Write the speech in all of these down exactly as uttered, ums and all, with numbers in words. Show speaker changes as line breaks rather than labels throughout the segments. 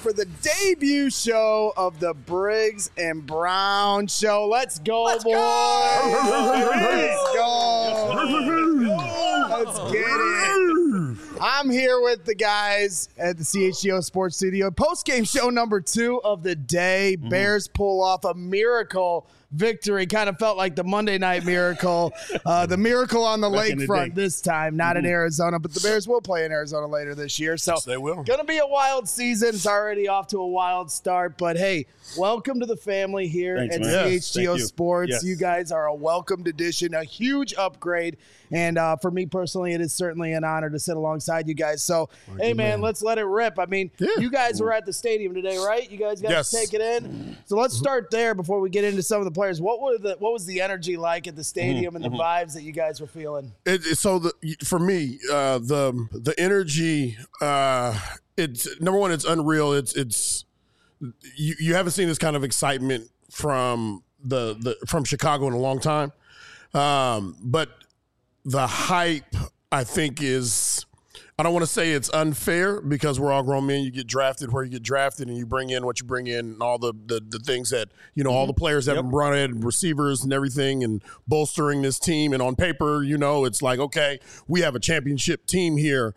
for the debut show of the Briggs and Brown Show. Let's go, Let's boys. Go. Let's go. Let's get it. I'm here with the guys at the C H G O Sports Studio. Post-game show number two of the day. Mm-hmm. Bears pull off a miracle victory. Kind of felt like the Monday Night Miracle. Uh, the miracle on the lakefront this time, not mm-hmm. in Arizona, but the Bears will play in Arizona later this year. So
yes, they will.
Going to be a wild season. It's already off to a wild start. But, hey, welcome to the family here
Thanks,
at
man.
C H G O
yes,
Sports.
Yes.
You guys are a welcomed addition, a huge upgrade. And uh, for me personally, it is certainly an honor to sit alongside you guys. So, Thank hey, man, man, let's let it rip. I mean, yeah. you guys were at the stadium today, right? You guys got
yes.
to take it in. So let's start there before we get into some of the players. What were the what was the energy like at the stadium mm-hmm. and the mm-hmm. vibes that you guys were feeling?
It, so the for me, uh, the the energy, uh, it's number one, it's unreal. It's it's you, you haven't seen this kind of excitement from the, the from Chicago in a long time, um, but the hype, I think, is, I don't want to say it's unfair because we're all grown men. You get drafted where you get drafted and you bring in what you bring in and all the the, the things that, you know, mm-hmm. all the players that yep. have brought in, receivers and everything, and bolstering this team. And on paper, you know, it's like, okay, we have a championship team here.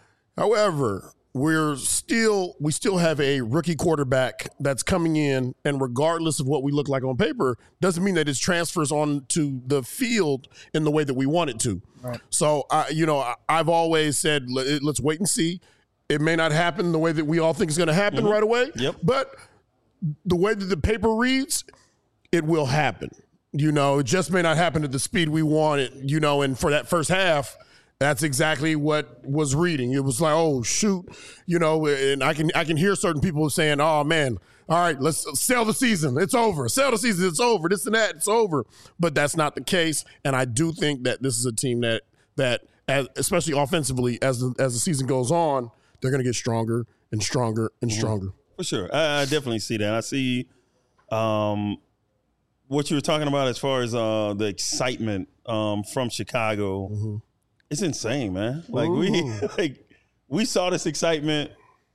However, we're still, we still have a rookie quarterback that's coming in, and regardless of what we look like on paper, doesn't mean that it transfers on to the field in the way that we want it to. Right. So, I, you know, I, I've always said, let's wait and see. It may not happen the way that we all think is going to happen mm-hmm. right away,
yep.
but the way that the paper reads, it will happen. You know, it just may not happen at the speed we want it, you know, and for that first half, that's exactly what was reading. It was like, oh, shoot, you know, and I can I can hear certain people saying, oh, man, all right, let's sell the season. It's over. Sell the season. It's over. This and that. It's over. But that's not the case. And I do think that this is a team that, that as, especially offensively, as the, as the season goes on, they're going to get stronger and stronger and stronger.
For sure. I, I definitely see that. I see um, what you were talking about as far as uh, the excitement um, from Chicago. Mm-hmm. It's insane, man. Like Ooh. we like we saw this excitement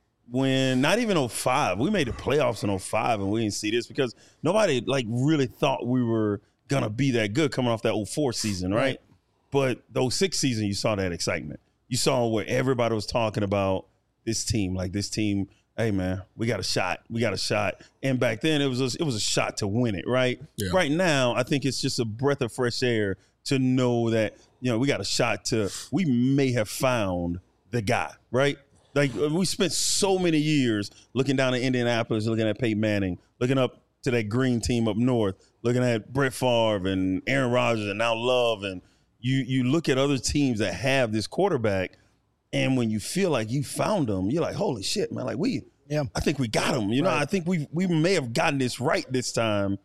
when not even oh five. We made the playoffs in oh five and we didn't see this because nobody like really thought we were gonna be that good coming off that oh four season, right? right? But the oh six season, you saw that excitement. You saw where everybody was talking about this team, like this team, hey man, we got a shot. We got a shot. And back then it was a, it was a shot to win it, right? Yeah. Right now, I think it's just a breath of fresh air to know that, you know, we got a shot to, we may have found the guy, right? Like, we spent so many years looking down at Indianapolis, looking at Peyton Manning, looking up to that green team up north, looking at Brett Favre and Aaron Rodgers and now Love. And you you look at other teams that have this quarterback, and when you feel like you found them, you're like, holy shit, man, like we, yeah, I think we got him. You know, right. I think we we may have gotten this right this time.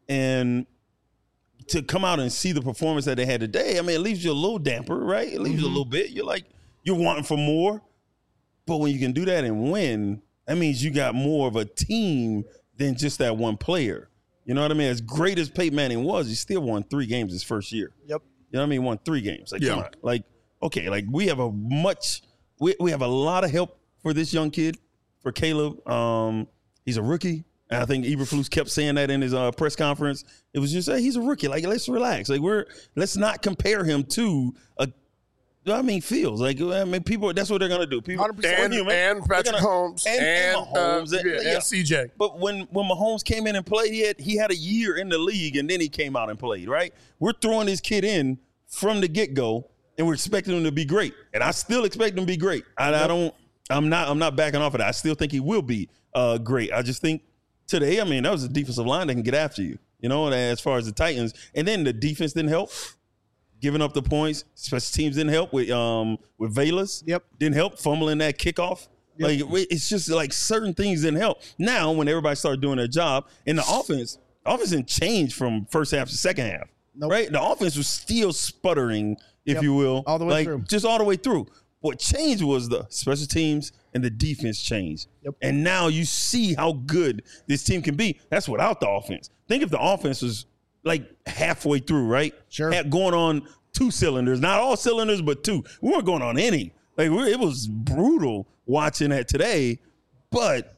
And to come out and see the performance that they had today, I mean, it leaves you a little damper, right? It leaves mm-hmm. you a little bit. You're like, you're wanting for more. But when you can do that and win, that means you got more of a team than just that one player. You know what I mean? As great as Peyton Manning was, he still won three games his first year.
Yep.
You know what I mean? Won three games. Like,
yeah.
come on. Like, okay, like we have a much, we, we have a lot of help for this young kid, for Caleb. Um, he's a rookie. And I think Eberflus kept saying that in his uh, press conference. It was just, hey, he's a rookie. Like, let's relax. Like, we're let's not compare him to a. I mean, Fields. Like, I mean, people. That's what they're gonna do. People
and, and Patrick gonna, Mahomes and, and, and Mahomes uh, and, yeah, yeah. and C J.
But when when Mahomes came in and played, he had he had a year in the league, and then he came out and played. Right? We're throwing this kid in from the get go, and we're expecting him to be great. And I still expect him to be great. I, I don't. I'm not. I'm not backing off of that. I still think he will be uh, great. I just think. Today, I mean, that was a defensive line that can get after you, you know, as far as the Titans. And then the defense didn't help. Giving up the points. Special teams didn't help with um with Velas.
Yep.
Didn't help fumbling that kickoff. Yep. Like, it's just like certain things didn't help. Now, when everybody started doing their job, and the offense, the offense didn't change from first half to second half. Nope. Right? The offense was still sputtering, if yep. you will.
All the way
like,
through.
Just all the way through. What changed was the special teams and the defense changed.
Yep.
And now you see how good this team can be. That's without the offense. Think if the offense was like halfway through, right?
Sure.
Had going on two cylinders, not all cylinders, but two. We weren't going on any. Like, we're, it was brutal watching that today. But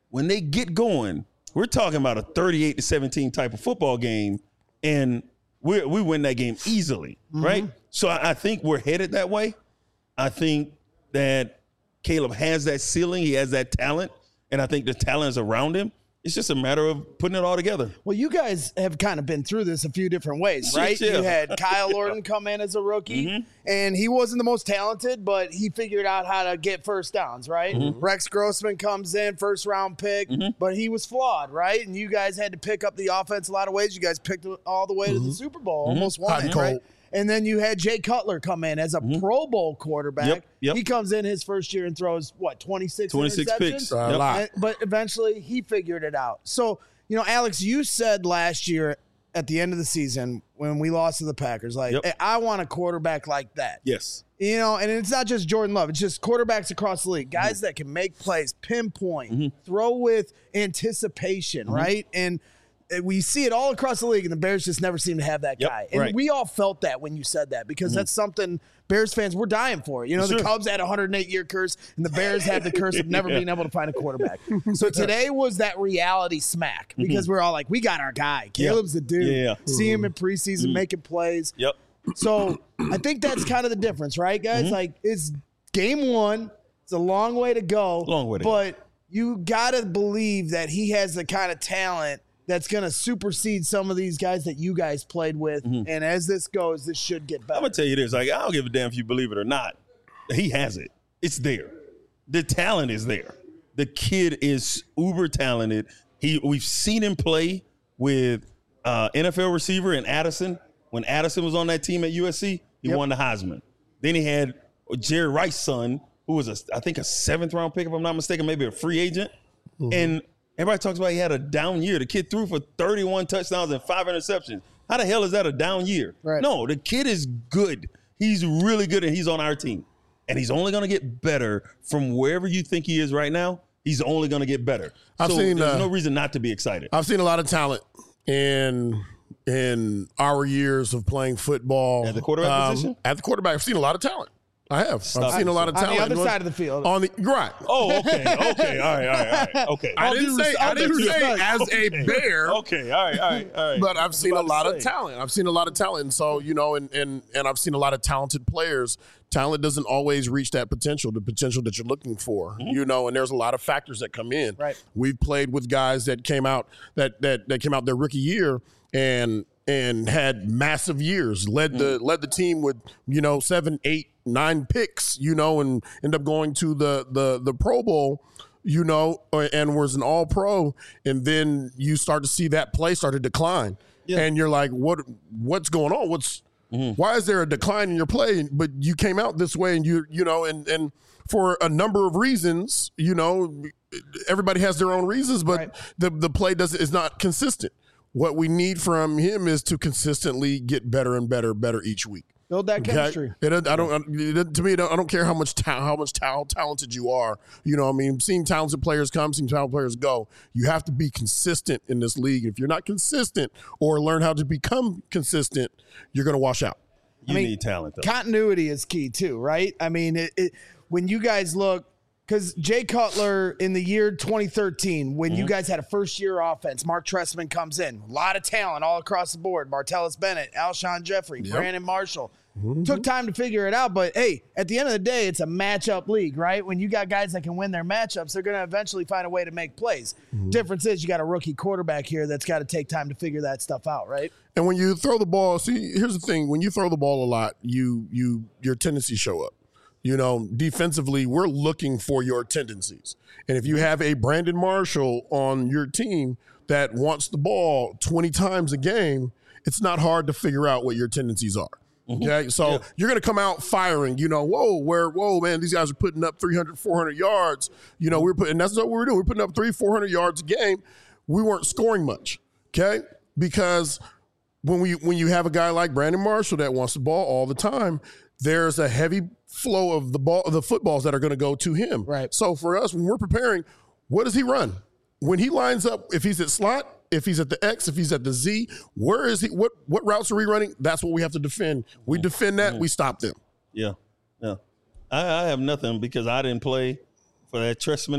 when they get going, we're talking about a thirty-eight to seventeen type of football game, and we we win that game easily, mm-hmm. right? So I, I think we're headed that way. I think that Caleb has that ceiling. He has that talent, and I think the talent is around him. It's just a matter of putting it all together.
Well, you guys have kind of been through this a few different ways, right?
Yeah.
You had Kyle Orton come in as a rookie, mm-hmm. and he wasn't the most talented, but he figured out how to get first downs, right? Mm-hmm. Rex Grossman comes in, first round pick, mm-hmm. but he was flawed, right? And you guys had to pick up the offense a lot of ways. You guys picked it all the way mm-hmm. to the Super Bowl, mm-hmm. almost won it, right? And then you had Jay Cutler come in as a mm-hmm. Pro Bowl quarterback.
Yep, yep.
He comes in his first year and throws, what, twenty-six
twenty-six
interceptions?
picks.
Uh, a
yep.
lot.
And, but eventually he figured it out. So, you know, Alex, you said last year at the end of the season when we lost to the Packers, like,
yep.
hey, I want a quarterback like that.
Yes.
You know, and it's not just Jordan Love. It's just quarterbacks across the league, guys mm-hmm. that can make plays, pinpoint, mm-hmm. throw with anticipation, mm-hmm. right? And we see it all across the league, and the Bears just never seem to have that
yep,
guy. And
right.
we all felt that when you said that because mm-hmm. that's something Bears fans were dying for. You know,
sure.
the Cubs had a one hundred eight year curse, and the Bears had the curse of never yeah. being able to find a quarterback. So today was that reality smack because mm-hmm. we're all like, we got our guy. Caleb's
yeah.
the dude.
Yeah.
See him in preseason mm-hmm. making plays.
Yep.
So I think that's kind of the difference, right, guys? Mm-hmm. Like, it's game one. It's a long way to go.
Long way to
but
go.
you got to believe that he has the kind of talent that's going to supersede some of these guys that you guys played with. Mm-hmm. And as this goes, this should get better.
I'm going to tell you this. Like, I don't give a damn if you believe it or not. He has it. It's there. The talent is there. The kid is uber talented. He We've seen him play with uh, N F L receiver and Addison. When Addison was on that team at U S C, he yep. won the Heisman. Then he had Jerry Rice's son, who was, a, I think, a seventh-round pick, if I'm not mistaken, maybe a free agent. Mm-hmm. And everybody talks about he had a down year. The kid threw for thirty-one touchdowns and five interceptions. How the hell is that a down year?
Right.
No, the kid is good. He's really good, and he's on our team. And he's only going to get better from wherever you think he is right now. He's only going to get better.
I've
so
seen,
there's
uh,
no reason not to be excited.
I've seen a lot of talent in in our years of playing football.
At the quarterback
um,
position?
At the quarterback, I've seen a lot of talent. I have.
Stop
I've seen
it.
a lot of
On
talent.
the other side of the field.
On the right.
Oh, okay, okay, all right, all right, all right, okay.
I
I'll
didn't
do
say
res-
I
I'll
didn't
do
say
respect.
as
Okay.
a Bear.
Okay, all right, all right, all right.
But I've seen a
about
lot
to
of
say.
talent. I've seen a lot of talent. And so, you know, and, and and I've seen a lot of talented players. Talent doesn't always reach that potential, the potential that you're looking for, mm-hmm. you know, and there's a lot of factors that come in.
Right.
We've played with guys that came out that that that came out their rookie year and and had massive years, led mm-hmm. the led the team with, you know, seven, eight, nine picks, you know, and end up going to the the the Pro Bowl, you know, and was an all pro. And then you start to see that play start to decline. Yeah. And you're like, what what's going on? What's mm-hmm. why is there a decline in your play? But you came out this way and you you know, and and for a number of reasons, you know, everybody has their own reasons, but right. the the play doesn't is not consistent. What we need from him is to consistently get better and better, better each week.
Build that chemistry.
Okay? It, I don't. It, to me, I don't, I don't care how much ta- how much ta- talented you are. You know, I mean, seeing talented players come, seeing talented players go. You have to be consistent in this league. If you're not consistent or learn how to become consistent, you're going to wash out.
You
I mean,
need talent, though.
Continuity is key too, right? I mean, it, it, when you guys look. Because Jay Cutler in the year twenty thirteen, when mm-hmm. you guys had a first-year offense, Mark Trestman comes in. A lot of talent all across the board. Martellus Bennett, Alshon Jeffrey, yep. Brandon Marshall. Mm-hmm. Took time to figure it out. But, hey, at the end of the day, it's a matchup league, right? When you got guys that can win their matchups, they're going to eventually find a way to make plays. Mm-hmm. Difference is you got a rookie quarterback here that's got to take time to figure that stuff out, right?
And when you throw the ball, see, here's the thing. When you throw the ball a lot, you you your tendencies show up. You know, defensively, we're looking for your tendencies. And if you have a Brandon Marshall on your team that wants the ball twenty times a game, it's not hard to figure out what your tendencies are. Mm-hmm. Okay, so yeah. you're going to come out firing, you know, whoa, where, whoa, man, these guys are putting up three hundred, four hundred yards. You know, we're putting, that's what we were doing. We're putting up three, four hundred yards a game. We weren't scoring much, okay, because when we when you have a guy like Brandon Marshall that wants the ball all the time, there's a heavy flow of the ball, of the footballs that are going to go to him.
Right.
So for us, when we're preparing, what does he run? When he lines up, if he's at slot, if he's at the X, if he's at the Z, where is he? What what routes are we running? That's what we have to defend. We defend that.
Yeah.
We stop them.
Yeah, yeah. I, I have nothing because I didn't play for that Trestman era.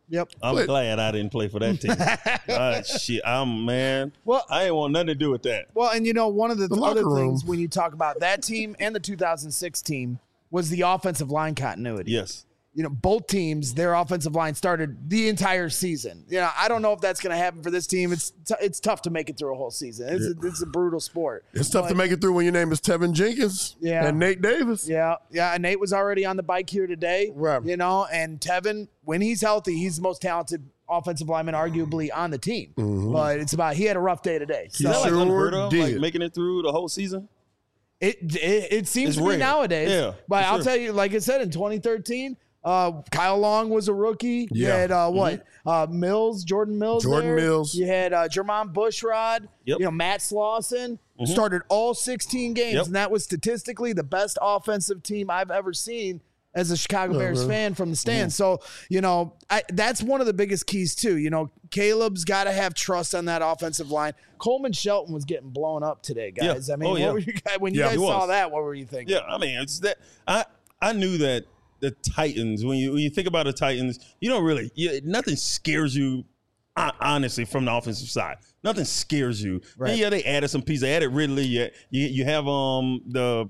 Yep.
I'm
But-
glad I didn't play for that team. Ah, shit, I'm man.
Well-
I ain't want nothing to do with that.
Well, and you know, one of the,
The
other
locker
things
room.
when you talk about that team and the two thousand six team was the offensive line continuity.
Yes.
You know, both teams, their offensive line started the entire season. You know, I don't know if that's going to happen for this team. It's t- it's tough to make it through a whole season. It's, a, it's a brutal sport.
It's tough
But-
to make it through when your name is Tevin Jenkins
Yeah.
and Nate Davis.
Yeah, yeah. And Nate was already on the bike here today.
Right.
You know, and Tevin, when he's healthy, he's the most talented offensive lineman arguably on the team.
Mm-hmm.
But it's about he had a rough day today.
Is that
So
like
Sure
unheard of? Like
did.
making it through the whole season?
it, it it seems
It's
to be
rare.
nowadays.
Yeah,
But
for
I'll
sure.
tell you, like I said, in twenty thirteen, uh, Kyle Long was a rookie. You
Yeah.
had uh, what? Uh, Mills, Jordan Mills.
Jordan
there.
Mills.
You had uh, Jermon Bushrod.
Yep.
You know, Matt Slauson started all sixteen games,
Yep.
and that was statistically the best offensive team I've ever seen as a Chicago Bears
really?
fan from the stands. So, you know, I, that's one of the biggest keys too. You know, Caleb's got to have trust on that offensive line. Coleman Shelton was getting blown up today, guys.
Yeah.
I mean,
Oh,
what
yeah.
were you guys, when you
Yeah,
guys
he
saw
was.
that, what were you thinking?
Yeah, I mean, it's that I I knew that the Titans, when you when you think about the Titans, you don't really you, nothing scares you hon- honestly from the offensive side. Nothing scares you.
Right.
And yeah, they added some pieces. They added Ridley. You you, you have um the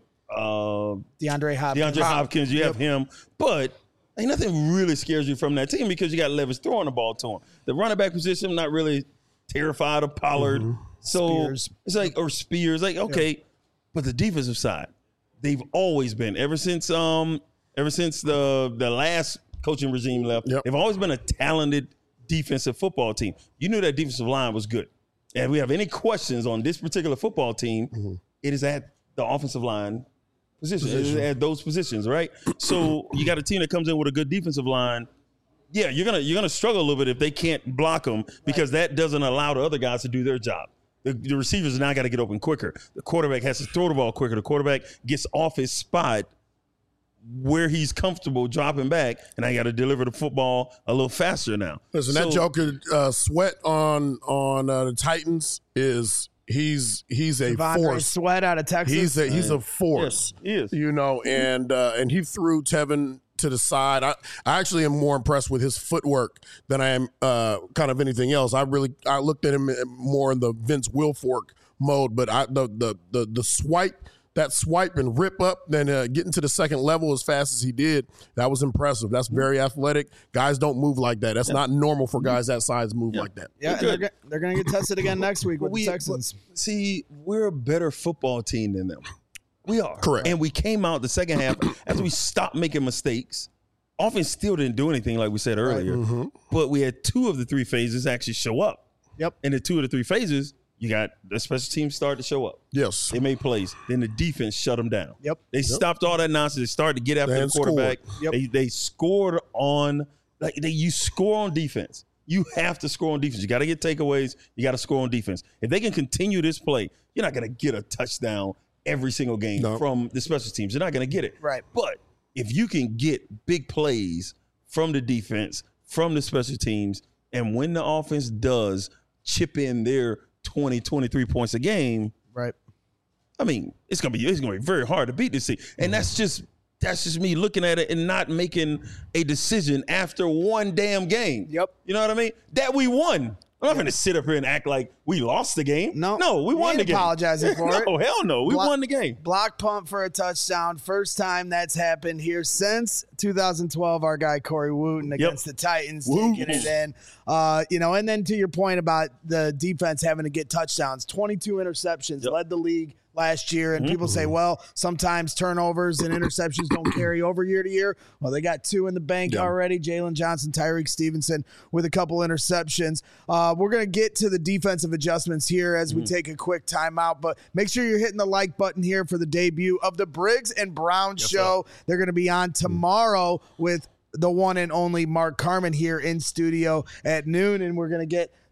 uh
DeAndre Hopkins.
DeAndre Hopkins, you have him, but ain't nothing really scares you from that team because you got Levis throwing the ball to him. The running back position, I'm not really terrified of Pollard. So
Spears.
it's like, or Spears, like, okay, but the defensive side, they've always been, ever since um, ever since the the last coaching regime left,
Yep.
they've always been a talented defensive football team. You knew that defensive line was good. And if we have any questions on this particular football team, it is at the offensive line position, It is at those positions, right? So you got a team that comes in with a good defensive line. Yeah, you're gonna you're gonna struggle a little bit if they can't block them because that doesn't allow the other guys to do their job. The, the receivers now got to get open quicker. The quarterback has to throw the ball quicker. The quarterback gets off his spot where he's comfortable dropping back, and I got to deliver the football a little faster now.
Listen,
So-
that Joker uh, Sweat on on uh, the Titans is he's he's a
Devondre
force.
Sweat out of Texas.
He's a he's a force.
Yes, he is.
You know, and uh, and he threw Tevin to the side. I, I actually am more impressed with his footwork than I am uh, kind of anything else. I really I looked at him more in the Vince Wilfork mode, but I the the the, the swipe. That swipe and rip up, then uh, getting to the second level as fast as he did, that was impressive. That's very athletic. Guys don't move like that. That's not normal for guys that size to move like that.
yeah, and
They're
they're,
good.
go- they're going to get tested again next week with
we,
the Texans.
but see, we're a better football team than them. We are.
Correct.
And we came out the second half after we stopped making mistakes. Offense still didn't do anything like we said earlier. But we had two of the three phases actually show up.
Yep.
And the two of the three phases, you got the special teams start to show up.
Yes.
They made plays. Then the defense shut them down.
Yep.
They stopped all that nonsense. They started to get after
And
the quarterback.
scored. Yep.
They they scored on like they you score on defense. You have to score on defense. You got to get takeaways. You got to score on defense. If they can continue this play, you're not going to get a touchdown every single game
No.
from the special teams. You're not going to get it.
Right.
But if you can get big plays from the defense, from the special teams, and when the offense does chip in their twenty, twenty-three points a game,
Right.
I mean, it's gonna be it's gonna be very hard to beat this team, and that's just that's just me looking at it and not making a decision after one damn game.
Yep.
You know what I mean? That we won. I'm not gonna sit up here and act like we lost the game.
No.
no, we
You
won
ain't
the game.
apologizing for it.
No, hell no, we
Block-
won the game.
Block punt for a touchdown. First time that's happened here since two thousand twelve. Our guy Corey Wooten against the Titans
Wooten.
taking it in. Uh, you know, and then to your point about the defense having to get touchdowns, twenty-two interceptions,
Yep.
led the league last year. And
Mm-hmm.
people say, well, sometimes turnovers and interceptions don't carry over year to year. Well, they got two in the bank
Yeah.
already. Jalen Johnson, Tyreek Stevenson with a couple interceptions. Uh, we're going to get to the defensive adjustments here as we
Mm-hmm.
take a quick timeout. But make sure you're hitting the like button here for the debut of the Briggs and Brown Show. They're going to be on tomorrow with the one and only Mark Carman here in studio at noon, and we're going to get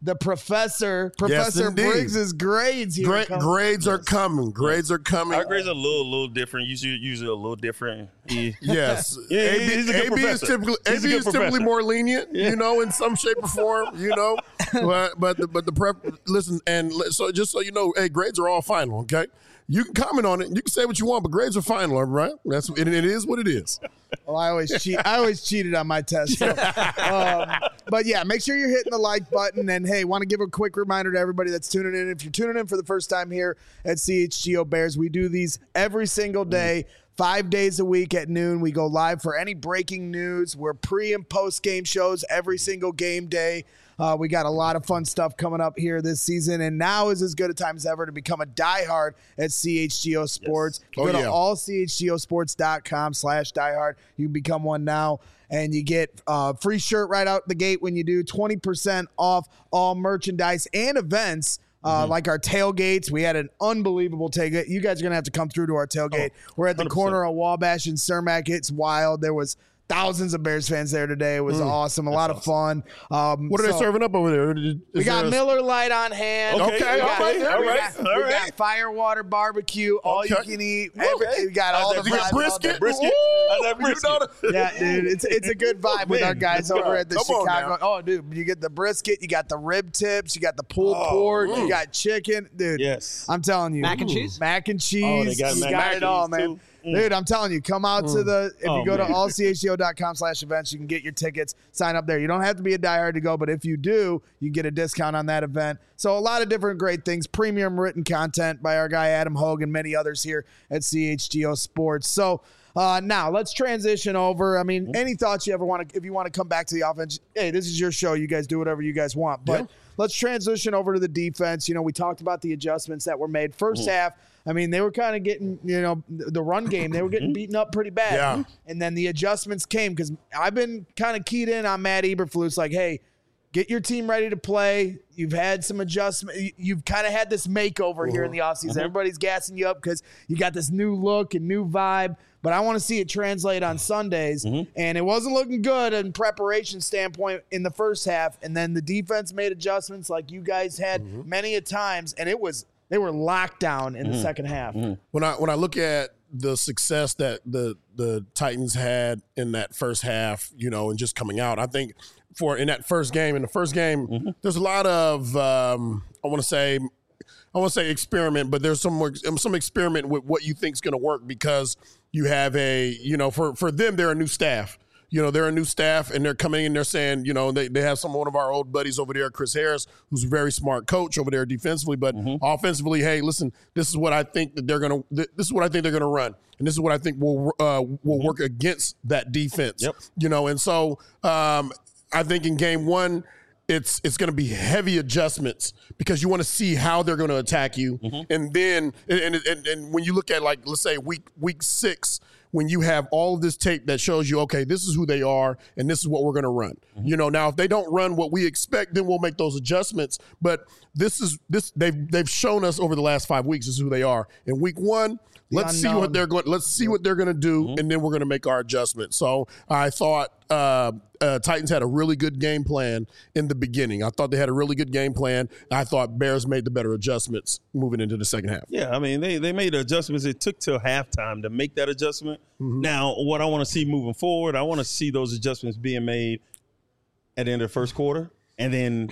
the professor, Professor
indeed.
Briggs's grades here.
Gra-
come-
grades are coming. Grades are coming.
Our grades are a little, little different. Usually, usually a little different. He,
Yes.
Yeah,
A B,
he's a good
A B is
professor.
typically A
He's a
B
good
is typically
professor.
more lenient, you know, in some shape or form, you know. But but the, but the prep. Listen, and li- so just so you know, hey, grades are all final. Okay, you can comment on it. You can say what you want, but grades are final, all right? That's and it is what it is.
Well, I always cheat. I always cheated on my test. So. um, but yeah, make sure you're hitting the like button. And hey, want to give a quick reminder to everybody that's tuning in. If you're tuning in for the first time here at C H G O Bears, we do these every single day. Five days a week at noon, we go live for any breaking news. We're pre and post game shows every single game day. Uh, we got a lot of fun stuff coming up here this season, and now is as good a time as ever to become a diehard at C H G O Sports.
Yes.
Go
Oh,
to
yeah.
all C H G O sports dot com slash diehard. You can become one now, and you get a free shirt right out the gate when you do, twenty percent off all merchandise and events. Uh,
Mm-hmm.
Like our tailgates. We had an unbelievable tailgate. You guys are going to have to come through to our tailgate.
Oh,
We're at the
one hundred percent.
corner of Wabash and Cermak. It's wild. There was thousands of Bears fans there today. It was awesome. A lot of fun. Um,
What are
so
they serving up over there? Is
We got
there a-
Miller Lite on hand.
Okay,
Okay,
we
all
got,
right,
we
all
got-
right,
we
all
got
right.
Firewater barbecue. All
Okay.
you can eat. Every, we got all the
How's that
vibes, all
brisket?
the-
Brisket?
Woo!
How's that
You
brisket?
know the-
Yeah, dude, it's it's a good vibe with
Man,
our guys
that's
over
right.
at the
Come on
Chicago.
now.
Oh, dude, you get the brisket, you got the rib tips, you got the pulled
Oh,
pork, you
mm.
got chicken, dude.
Yes.
I'm telling you,
Mac and cheese?
mac and cheese.
Oh, they got
you
mac
got
and
it all,
cheese,
man.
too. Mm.
Dude, I'm telling you, come out to the. If
Oh,
you go to
man.
all c h g o dot com slash events, you can get your tickets. Sign up there. You don't have to be a diehard to go, but if you do, you get a discount on that event. So a lot of different great things. Premium written content by our guy Adam Hogue and many others here at C H G O Sports. So. Uh, now let's transition over. I mean, any thoughts you ever want to, if you want to come back to the offense, hey, this is your show. You guys do whatever you guys want. But
Yeah.
let's transition over to the defense. You know, we talked about the adjustments that were made. 1st half, I mean, they were kind of getting, you know, the run game, they were getting beaten up pretty bad.
Yeah.
And then the adjustments came because I've been kind of keyed in on Matt Eberflus, like, hey, get your team ready to play. You've had some adjustment. you- You've kind of had this makeover here in the offseason. Everybody's gassing you up because you got this new look and new vibe. But I want to see it translate on Sundays. And it wasn't looking good in preparation standpoint in the first half. And then the defense made adjustments like you guys had many a times. And it was they were locked down in the second half.
when I when I look at the success that the the Titans had in that first half, you know, and just coming out, I think for in that first game, in the first game, there's a lot of um, I want to say. I want to say experiment, but there's some more, some experiment with what you think is going to work because you have a, you know, for, for them, they're a new staff. You know, they're a new staff and they're coming in, they're saying, you know, they, they have some one of our old buddies over there, Chris Harris, who's a very smart coach over there defensively, but offensively, hey, listen, this is what I think that they're going to, this is what I think they're going to run. And this is what I think will, uh, will work against that defense.
Yep.
You know, and so um, I think in game one, it's it's going to be heavy adjustments because you want to see how they're going to attack you, and then and, and and when you look at, like, let's say week week six, when you have all of this tape that shows you, okay, this is who they are and this is what we're going to run. You know, now if they don't run what we expect, then we'll make those adjustments. But this is this they've they've shown us over the last five weeks this is who they are. In week one, let's see
unknown.
what they're going. Let's see what they're going to do, and then we're going to make our adjustments. So I thought uh, uh, Titans had a really good game plan in the beginning. I thought they had a really good game plan. I thought Bears made the better adjustments moving into the second half.
Yeah, I mean, they, they made adjustments. It took till halftime to make that adjustment.
Mm-hmm.
Now, what I want to see moving forward, I want to see those adjustments being made at the end of the first quarter, and then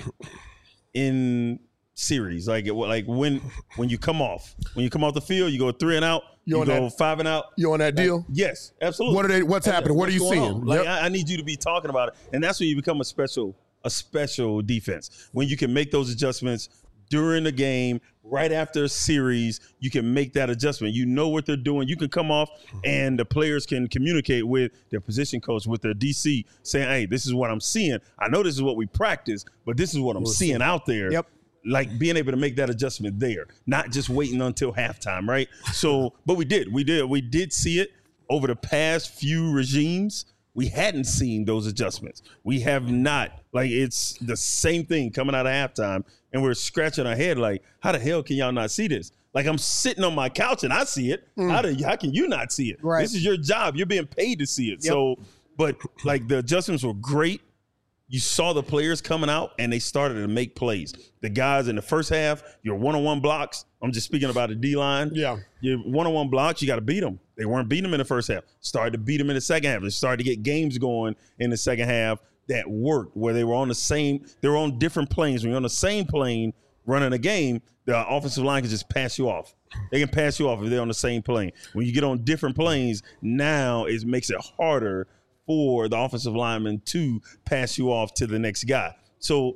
in series, like it, like when when you come off, when you come off the field, you go three and out,
You
you,
on
go
that-
five and out.
You on that deal?
Yes, absolutely.
What are they? What's happening? What are you
What's going
seeing?
on? Like
Yep.
I, I need you to be talking about it, and that's when you become a special a special defense. When you can make those adjustments during the game, right after a series, you can make that adjustment. You know what they're doing. You can come off, and the players can communicate with their position coach, with their D C, saying, "Hey, this is what I'm seeing. I know this is what we practice, but this is what I'm seeing out there."
Yep.
Like being able to make that adjustment there, not just waiting until halftime, right? So, but we did, we did, we did see it over the past few regimes. We hadn't seen those adjustments. We have not. Like, it's the same thing coming out of halftime, and we're scratching our head like, how the hell can y'all not see this? Like, I'm sitting on my couch and I see it. How do how can you not see it?
Right.
This is your job. You're being paid to see it.
Yep.
So, but like the adjustments were great. you saw the players coming out and they started to make plays. The guys in the first half, your one-on-one blocks, I'm just speaking about the D-line.
Yeah.
Your one-on-one blocks, you got to beat them. They weren't beating them in the first half. Started to beat them in the second half. They started to get games going in the second half that worked, where they were on the same, they were on different planes. When you're on the same plane running a game, the offensive line can just pass you off. They can pass you off if they're on the same plane. When you get on different planes, now it makes it harder for the offensive lineman to pass you off to the next guy. So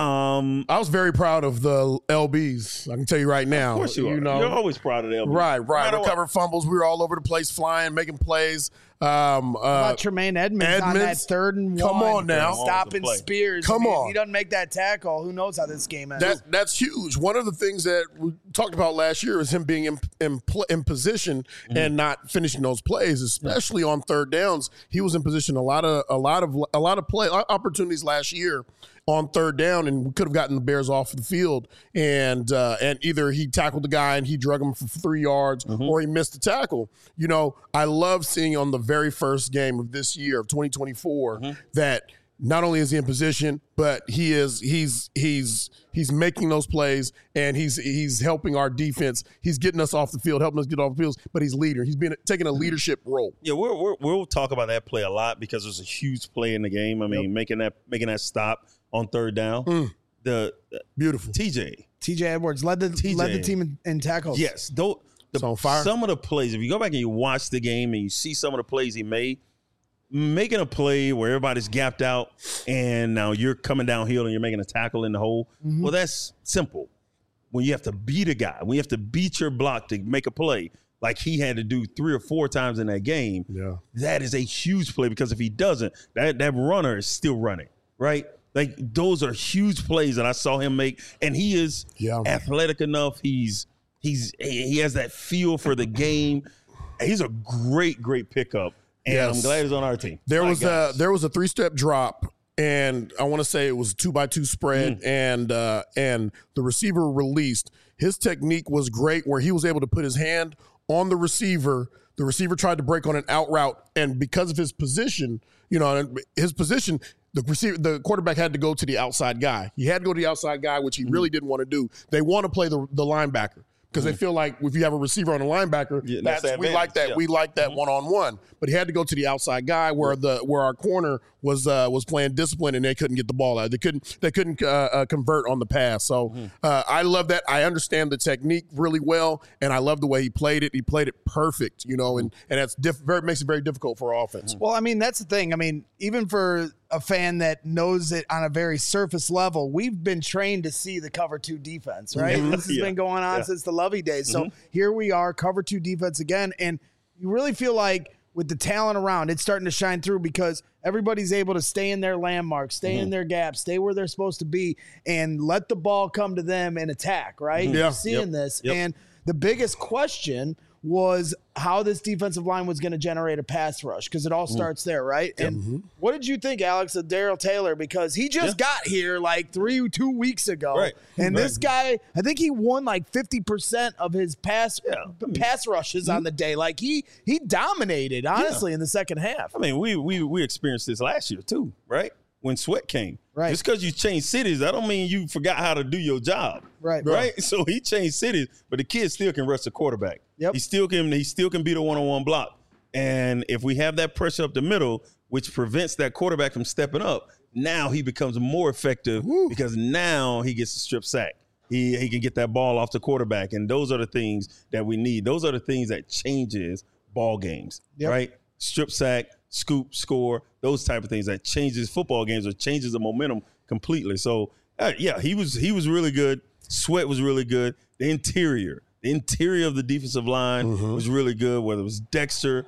um,
I was very proud of the L Bs. I can tell you right now.
Of course you, you are.
Know,
You're always proud of the L Bs.
Right, right.
No
Recovered fumbles. We were all over the place, flying, making plays. Um, uh,
about Tremaine Edmonds, Edmonds on that third and
come
one.
on now.
Stopping Spears.
Come
I mean,
on.
If he doesn't make that tackle, who knows how this game ends.
That, that's huge. One of the things that we talked about last year is him being in, in, in position mm-hmm. and not finishing those plays, especially on third downs. He was in position a lot of a lot of a lot of play opportunities last year on third down, and we could have gotten the Bears off the field. And uh, and either he tackled the guy and he drug him for three yards, mm-hmm. or he missed the tackle. You know, I love seeing on the very first game of this year of twenty twenty-four mm-hmm. that not only is he in position, but he is he's he's he's making those plays, and he's he's helping our defense. He's getting us off the field, helping us get off the field. But he's leader. He's been taking a leadership role.
Yeah, we're, we're, we'll talk about that play a lot because there's a huge play in the game. I mean, yep. making that making that stop on third down. Mm. The
beautiful
T J
T J Edwards led the
T J.
led the team in, in tackles.
Yes, the,
on fire.
Some of the plays. If you go back and you watch the game and you see some of the plays he made, making a play where everybody's gapped out and now you're coming downhill and you're making a tackle in the hole. Mm-hmm. Well, that's simple. When you have to beat a guy, when you have to beat your block to make a play, like he had to do three or four times in that game,
yeah.
that is a huge play, because if he doesn't, that, that runner is still running, right? Like, those are huge plays that I saw him make, and he is
yeah.
athletic enough. He's he's he has that feel for the game. He's a great, great pickup. And yes. I'm glad he's on our team.
There
My
was
gosh.
a there was a three step drop, and I want to say it was a two by two spread, mm. and uh, and the receiver released. His technique was great, where he was able to put his hand on the receiver. The receiver tried to break on an out route, and because of his position, you know, his position, the receiver, the quarterback had to go to the outside guy. He had to go to the outside guy, which he mm. really didn't want to do. They want to play the the linebacker, because mm-hmm. they feel like if you have a receiver on a linebacker,
yeah,
that's,
that's
we like that.
Yeah.
We like that one on one. But he had to go to the outside guy, where the where our corner was uh, was playing discipline, and they couldn't get the ball out. They couldn't they couldn't uh, uh, convert on the pass. So mm-hmm. uh, I love that. I understand the technique really well, and I love the way he played it. He played it perfect, you know, and and that's diff- very makes it very difficult for our offense.
Well, I mean, that's the thing. I mean, even for a fan that knows it on a very surface level, we've been trained to see the cover two defense, right? Mm-hmm. This has yeah. been going on yeah. since the Lovey days. So mm-hmm. here we are, cover two defense again. And you really feel like with the talent around, it's starting to shine through, because everybody's able to stay in their landmarks, stay mm-hmm. in their gaps, stay where they're supposed to be, and let the ball come to them and attack, right?
Mm-hmm. Yeah.
You're seeing
yep.
this.
Yep.
And the biggest question was how this defensive line was going to generate a pass rush, because it all starts there, right? And
mm-hmm.
what did you think, Alex, of Darrell Taylor? Because he just yeah. got here like three, two weeks ago.
Right.
And
right.
this guy, I think he won like fifty percent of his pass
yeah.
pass rushes mm-hmm. on the day. Like he he dominated, honestly, yeah. in the second half.
I mean, we we we experienced this last year too, right? When Sweat came.
Right.
Just because you changed cities, that don't mean you forgot how to do your job.
Right.
Right. So he changed cities, but the kid still can rush the quarterback.
Yep.
He still can he still can beat a one-on-one block. And if we have that pressure up the middle, which prevents that quarterback from stepping up, now he becomes more effective Woo. because now he gets a strip sack. He he can get that ball off the quarterback. And those are the things that we need. Those are the things that changes ball games.
Yep.
Right? Strip sack, scoop, score, those type of things that changes football games or changes the momentum completely. So, uh, yeah, he was he was really good. Sweat was really good. The interior, the interior of the defensive line mm-hmm. was really good, whether it was Dexter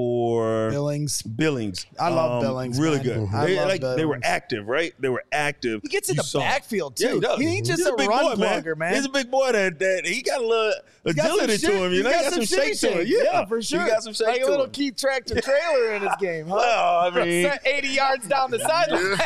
or
Billings.
Billings.
I love
um,
Billings.
Really
man.
good.
Mm-hmm. I
They,
love
like,
Billings.
they were active, right? They were active.
He gets in
You
the
saw-
backfield, too.
Yeah, he does.
He ain't just
He's
a,
big
run
boy,
blogger, man.
He's a big boy that, that he got a little
He's got some
agility to
shit-
him. You
he's
know,
got
he got some
some
shake to him.
shake.
Yeah.
Yeah, for sure.
He got some shake
Like
to
a little
him.
Keith Tractor trailer in his game, huh?
Well, I mean,
eighty yards down the sideline.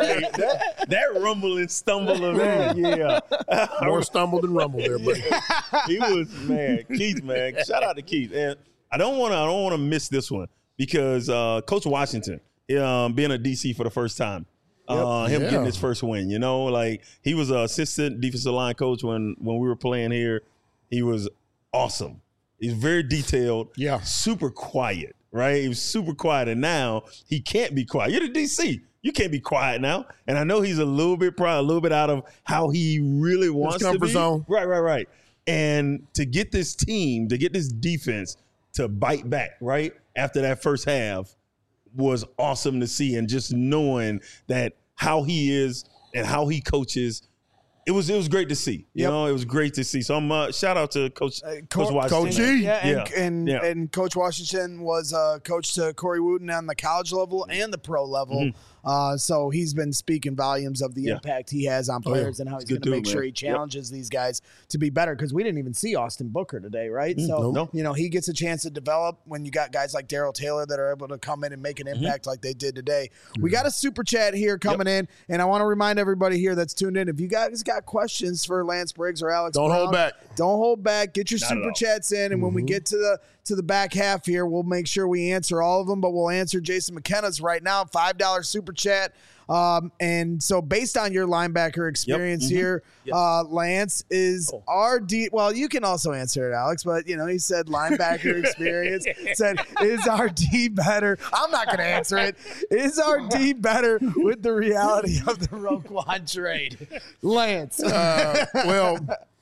that, that rumble and stumble of man, yeah.
More stumble than rumble there, buddy.
He was, man, Keith, man. Shout out to Keith. And I don't want to I don't want to miss this one, because uh, Coach Washington, um, being a D C for the first time, Uh, him
Yeah.
getting his first win, you know, like he was an assistant defensive line coach when when we were playing here. He was awesome. He's very detailed.
Yeah.
Super quiet, right? He was super quiet, and now he can't be quiet. You're the D C. You can't be quiet now. And I know he's a little bit probably a little bit out of how he really wants to
comfort
be.
zone.
Right, right, right. And to get this team, to get this defense to bite back, right, after that first half was awesome to see. And just knowing that how he is and how he coaches, it was it was great to see. You
Yep.
know, it was great to see. So I'm uh, shout out to Coach
Uh,
Coach
Co-
Washington.
Coach E.
Yeah, and,
Yeah.
and,
Yeah.
and Coach Washington was uh, coach to Corey Wooten on the college level and the pro level. Uh, so he's been speaking volumes of the
Yeah.
impact he has on
Oh, yeah.
players and how he's
good
going to make
dude,
sure
man.
he challenges these guys to be better, because we didn't even see Austin Booker today, right? so,
no.
you know, he gets a chance to develop when you got guys like Daryl Taylor that are able to come in and make an impact like they did today. We got a super chat here coming in, and I want to remind everybody here that's tuned in, if you guys got questions for Lance Briggs or Alex
Don't
Brown,
hold back.
Don't hold back. Get your
Not at
super
all.
chats in, and when we get to the to the back half here, we'll make sure we answer all of them. But we'll answer Jason McKenna's right now, five dollar super chat. Um, and so, based on your linebacker experience
Mhm.
here, uh, Lance is our D. Well, you can also answer it, Alex. But you know, he said linebacker experience. Said is our D better? I'm not going to answer it. Is our D better with the reality of the Roquan trade, Lance?
Uh, well,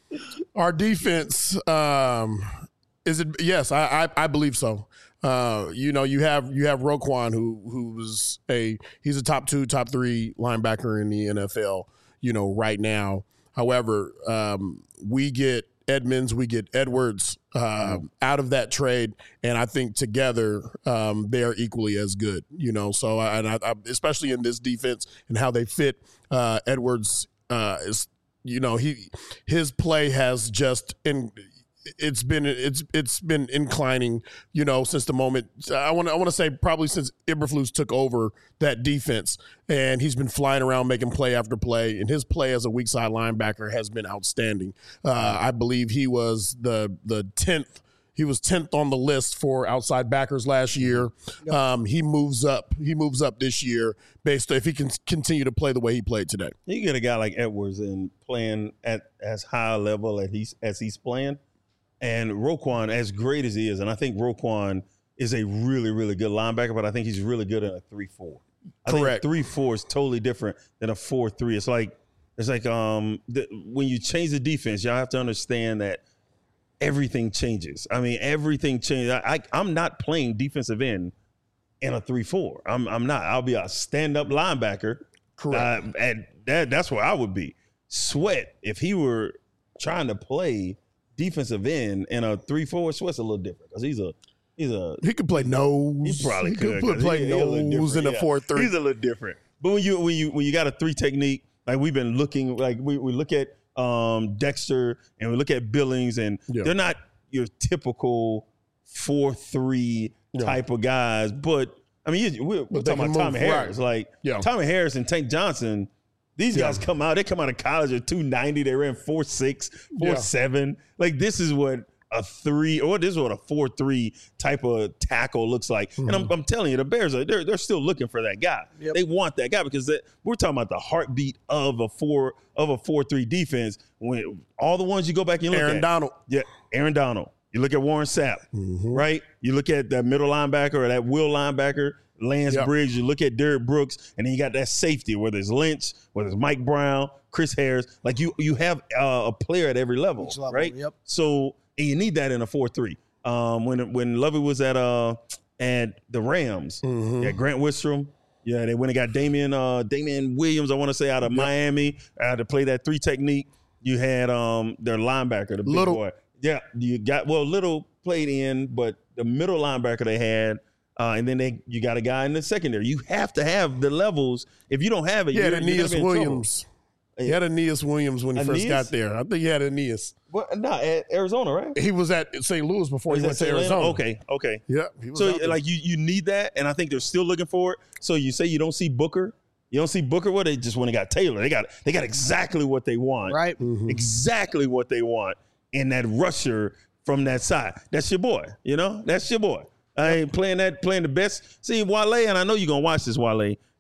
our defense um, is it? Yes, I, I I believe so. Uh, you know, you have you have Roquan, who who's a he's a top two, top three linebacker in the N F L. You know, right now. However, um, we get Edmonds, we get Edwards uh, out of that trade, and I think together um, they are equally as good. You know, so I, and I, I, especially in this defense and how they fit, uh, Edwards uh, is. You know, he his play has just in it's been it's it's been inclining, you know, since the moment I want to I want to say probably since Eberflus took over that defense, and he's been flying around making play after play, and his play as a weak side linebacker has been outstanding. Uh, I believe he was the the tenth. He was tenth on the list for outside backers last year. Um, he moves up. He moves up this year based on if he can continue to play the way he played today.
You get a guy like Edwards and playing at as high a level as he's as he's playing, and Roquan, as great as he is, and I think Roquan is a really, really good linebacker, but I think he's really good in a three four. I
Correct.
think three four is totally different than a four three. It's like it's like um the, when you change the defense, y'all have to understand that everything changes. I mean, everything changes. I, I I'm not playing defensive end in a three four. I'm I'm not. I'll be a stand up linebacker.
Correct.
Uh, and that that's where I would be. Sweat, if he were trying to play defensive end in a three four, Sweat's a little different because he's a he's a
He could play nose.
he probably
he
could,
put,
'cause
play
he- he a little
nose in
different,
a
yeah.
four three.
He's a little different. But when you when you when you got a three technique, like we've been looking, like we, we look at um, Dexter and we look at Billings, and
Yeah.
they're not your typical four three
Yeah.
type of guys. But I mean, you, we're, we're
But they
talking
can
about Tommy
move,
Harris.
right.
Like
Yeah.
Tommy Harris and Tank Johnson. These
Yeah.
guys come out. They come out of college at two ninety. They ran four six, four seven. Like this is what a three, or this is what a four three type of tackle looks like.
Mm-hmm.
And I'm, I'm telling you, the Bears are they're they're still looking for that guy.
Yep.
They want that guy because they, we're talking about the heartbeat of a four of a four three defense. When all the ones you go back and look
Aaron
at,
Donald.
yeah, Aaron Donald. You look at Warren Sapp, right? You look at that middle linebacker or that will linebacker, Lance
Yep.
Briggs. You look at Derek Brooks, and then you got that safety, whether it's Lynch, whether it's Mike Brown, Chris Harris. Like you, you have uh, a player at every level,
Each level,
right?
yep.
So and you need that in a four three. Um, when when Lovey was at uh at the Rams,
Mm-hmm.
yeah, Grant Wistrom. Yeah, they went and got Damian uh, Damian Williams, I want to say, out of Miami, uh, to play that three technique. You had um their linebacker, the big
Little.
boy. Yeah, you got well, Little played in, but the middle linebacker they had, uh, and then they you got a guy in the secondary. You have to have the levels. If you don't have it,
He had
you're, you're gonna
Aeneas
be in trouble.
Williams. He had Aeneas Williams when he first
Aeneas?
got there. I think he had Aeneas.
Well, no, at Arizona, right?
He was at Saint Louis before
Is
he
that
went to
Atlanta?
Arizona.
Okay, okay.
Yeah. He was
So
out there.
like you you need that, and I think they're still looking for it. So you say you don't see Booker, you don't see Booker. Well, they just went and got Taylor. They got they got exactly what they want,
Right.
Mm-hmm.
exactly what they want in that rusher from that side. That's your boy, you know. That's your boy. I ain't playing that playing the best. See Wale, and I know you're gonna watch this Wale,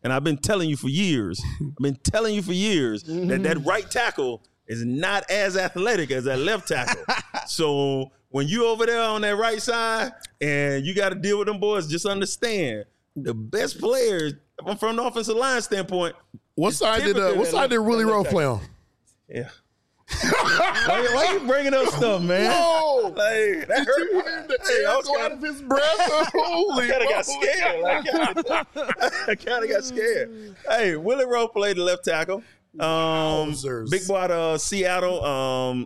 And I've been telling you for years, I've been telling you for years
Mm-hmm.
that that right tackle is not as athletic as that left tackle. So when you over there on that right side and you got to deal with them boys, just understand the best players from the offensive line standpoint.
What side did uh, what side did Willie Rowe play on?
Yeah. why, why you bringing up stuff, man?
Whoa!
Like, that hurt.
Hey, I was going out of his breath. Holy,
I kind of got scared. Like, I kind of got scared. Hey, Willie Rowe played the left tackle. Um,
Wowzers.
big boy out of Seattle. Um,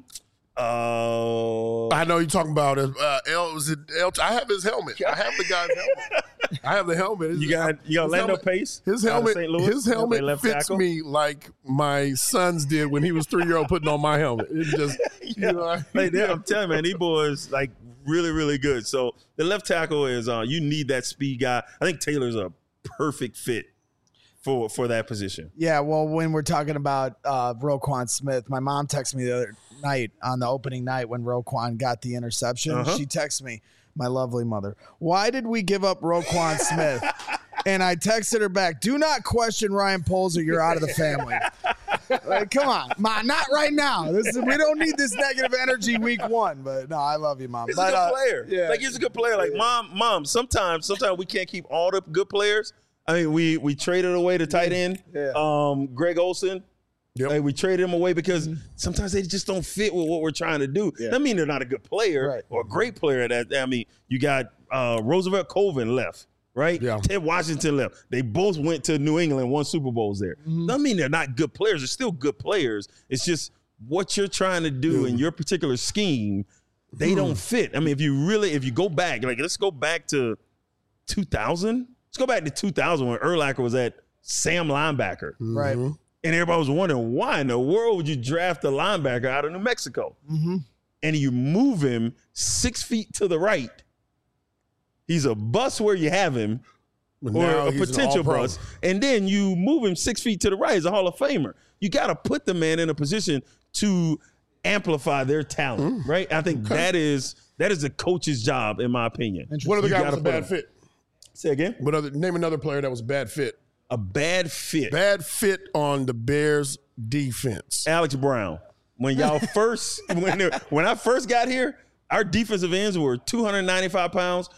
uh,
I know you're talking about it. Uh, L, was it L, I have his helmet. I have the guy's helmet. I have the helmet.
you got you got
His
Lando
helmet-
Pace.
His
out of
helmet,
Saint Louis.
his
Play
helmet
left
fits
tackle.
me like my sons did when he was three year old putting on my helmet. It just,
Yeah.
you know, I-
Like, they- I'm telling you, man, these boys like really, really good. So the left tackle is uh, you need that speed guy. I think Taylor's a perfect fit for for that position.
Yeah, well, when we're talking about uh, Roquan Smith, my mom texted me the other night on the opening night when Roquan got the interception.
Uh-huh.
She texted me, my lovely mother, why did we give up Roquan Smith? And I texted her back, do not question Ryan Poles or you're out of the family. Like, come on, Ma, not right now. This is, we don't need this negative energy week one. But no, I love you, Mom.
He's
but,
a good
uh,
player.
yeah.
Like he's a good player. Like mom, mom. Sometimes, sometimes we can't keep all the good players. I mean, we we traded away the tight end,
Yeah.
um, Greg Olson.
Yep.
Like we traded him away because sometimes they just don't fit with what we're trying to do.
Yeah.
That mean they're not a good player
Right.
or a great player. That I mean, you got uh, Roosevelt Colvin left, right?
Yeah.
Ted Washington left. They both went to New England, won Super Bowls there.
Mm-hmm.
That mean they're not good players. They're still good players. It's just what you're trying to do in your particular scheme. They don't fit. I mean, if you really, if you go back, like let's go back to two thousand. Let's go back to two thousand when Urlacher was at Sam linebacker.
Right.
Mm-hmm.
And everybody was wondering, why in the world would you draft a linebacker out of New Mexico?
Mm-hmm.
And you move him six feet to the right. He's a bust where you have him,
But
or
now
a
he's an
potential
all-pro.
bust. And then you move him six feet to the right as a Hall of Famer. You got to put the man in a position to amplify their talent,
Mm.
right? I think that is that is the coach's job, in my opinion.
What other
You
guy
gotta
was a
put
bad
him-
fit?
Say again?
What other? Name another player that was a bad fit.
A bad fit.
Bad fit on the Bears defense.
Alex Brown. When y'all first, when they- when I first got here, our defensive ends were two hundred ninety-five pounds,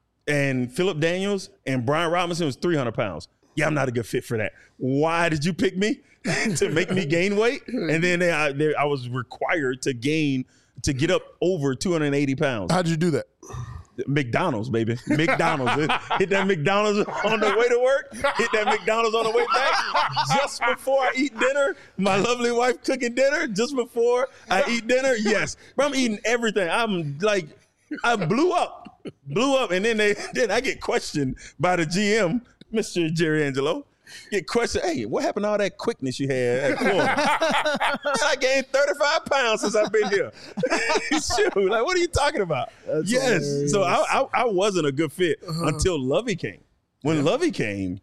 and Philip Daniels and Brian Robinson was three hundred pounds. Yeah, I'm not a good fit for that. Why did you pick me to make me gain weight? And then they, I, they, I was required to gain to get up over two hundred eighty pounds.
How'd you do that?
McDonald's, baby. McDonald's. Hit that McDonald's on the way to work. Hit that McDonald's on the way back. Just before I eat dinner, my lovely wife cooking dinner. Just before I eat dinner, yes. But I'm eating everything. I'm like, I blew up. Blew up. And then they then I get questioned by the G M, Mister Jerry Angelo. Get questioned, hey, what happened to all that quickness you had at Florida? Man, I gained thirty-five pounds since I've been here. Shoot, like, what are you talking about?
That's
yes.
hilarious.
So I, I, I wasn't a good fit until Lovey came. When Lovey came,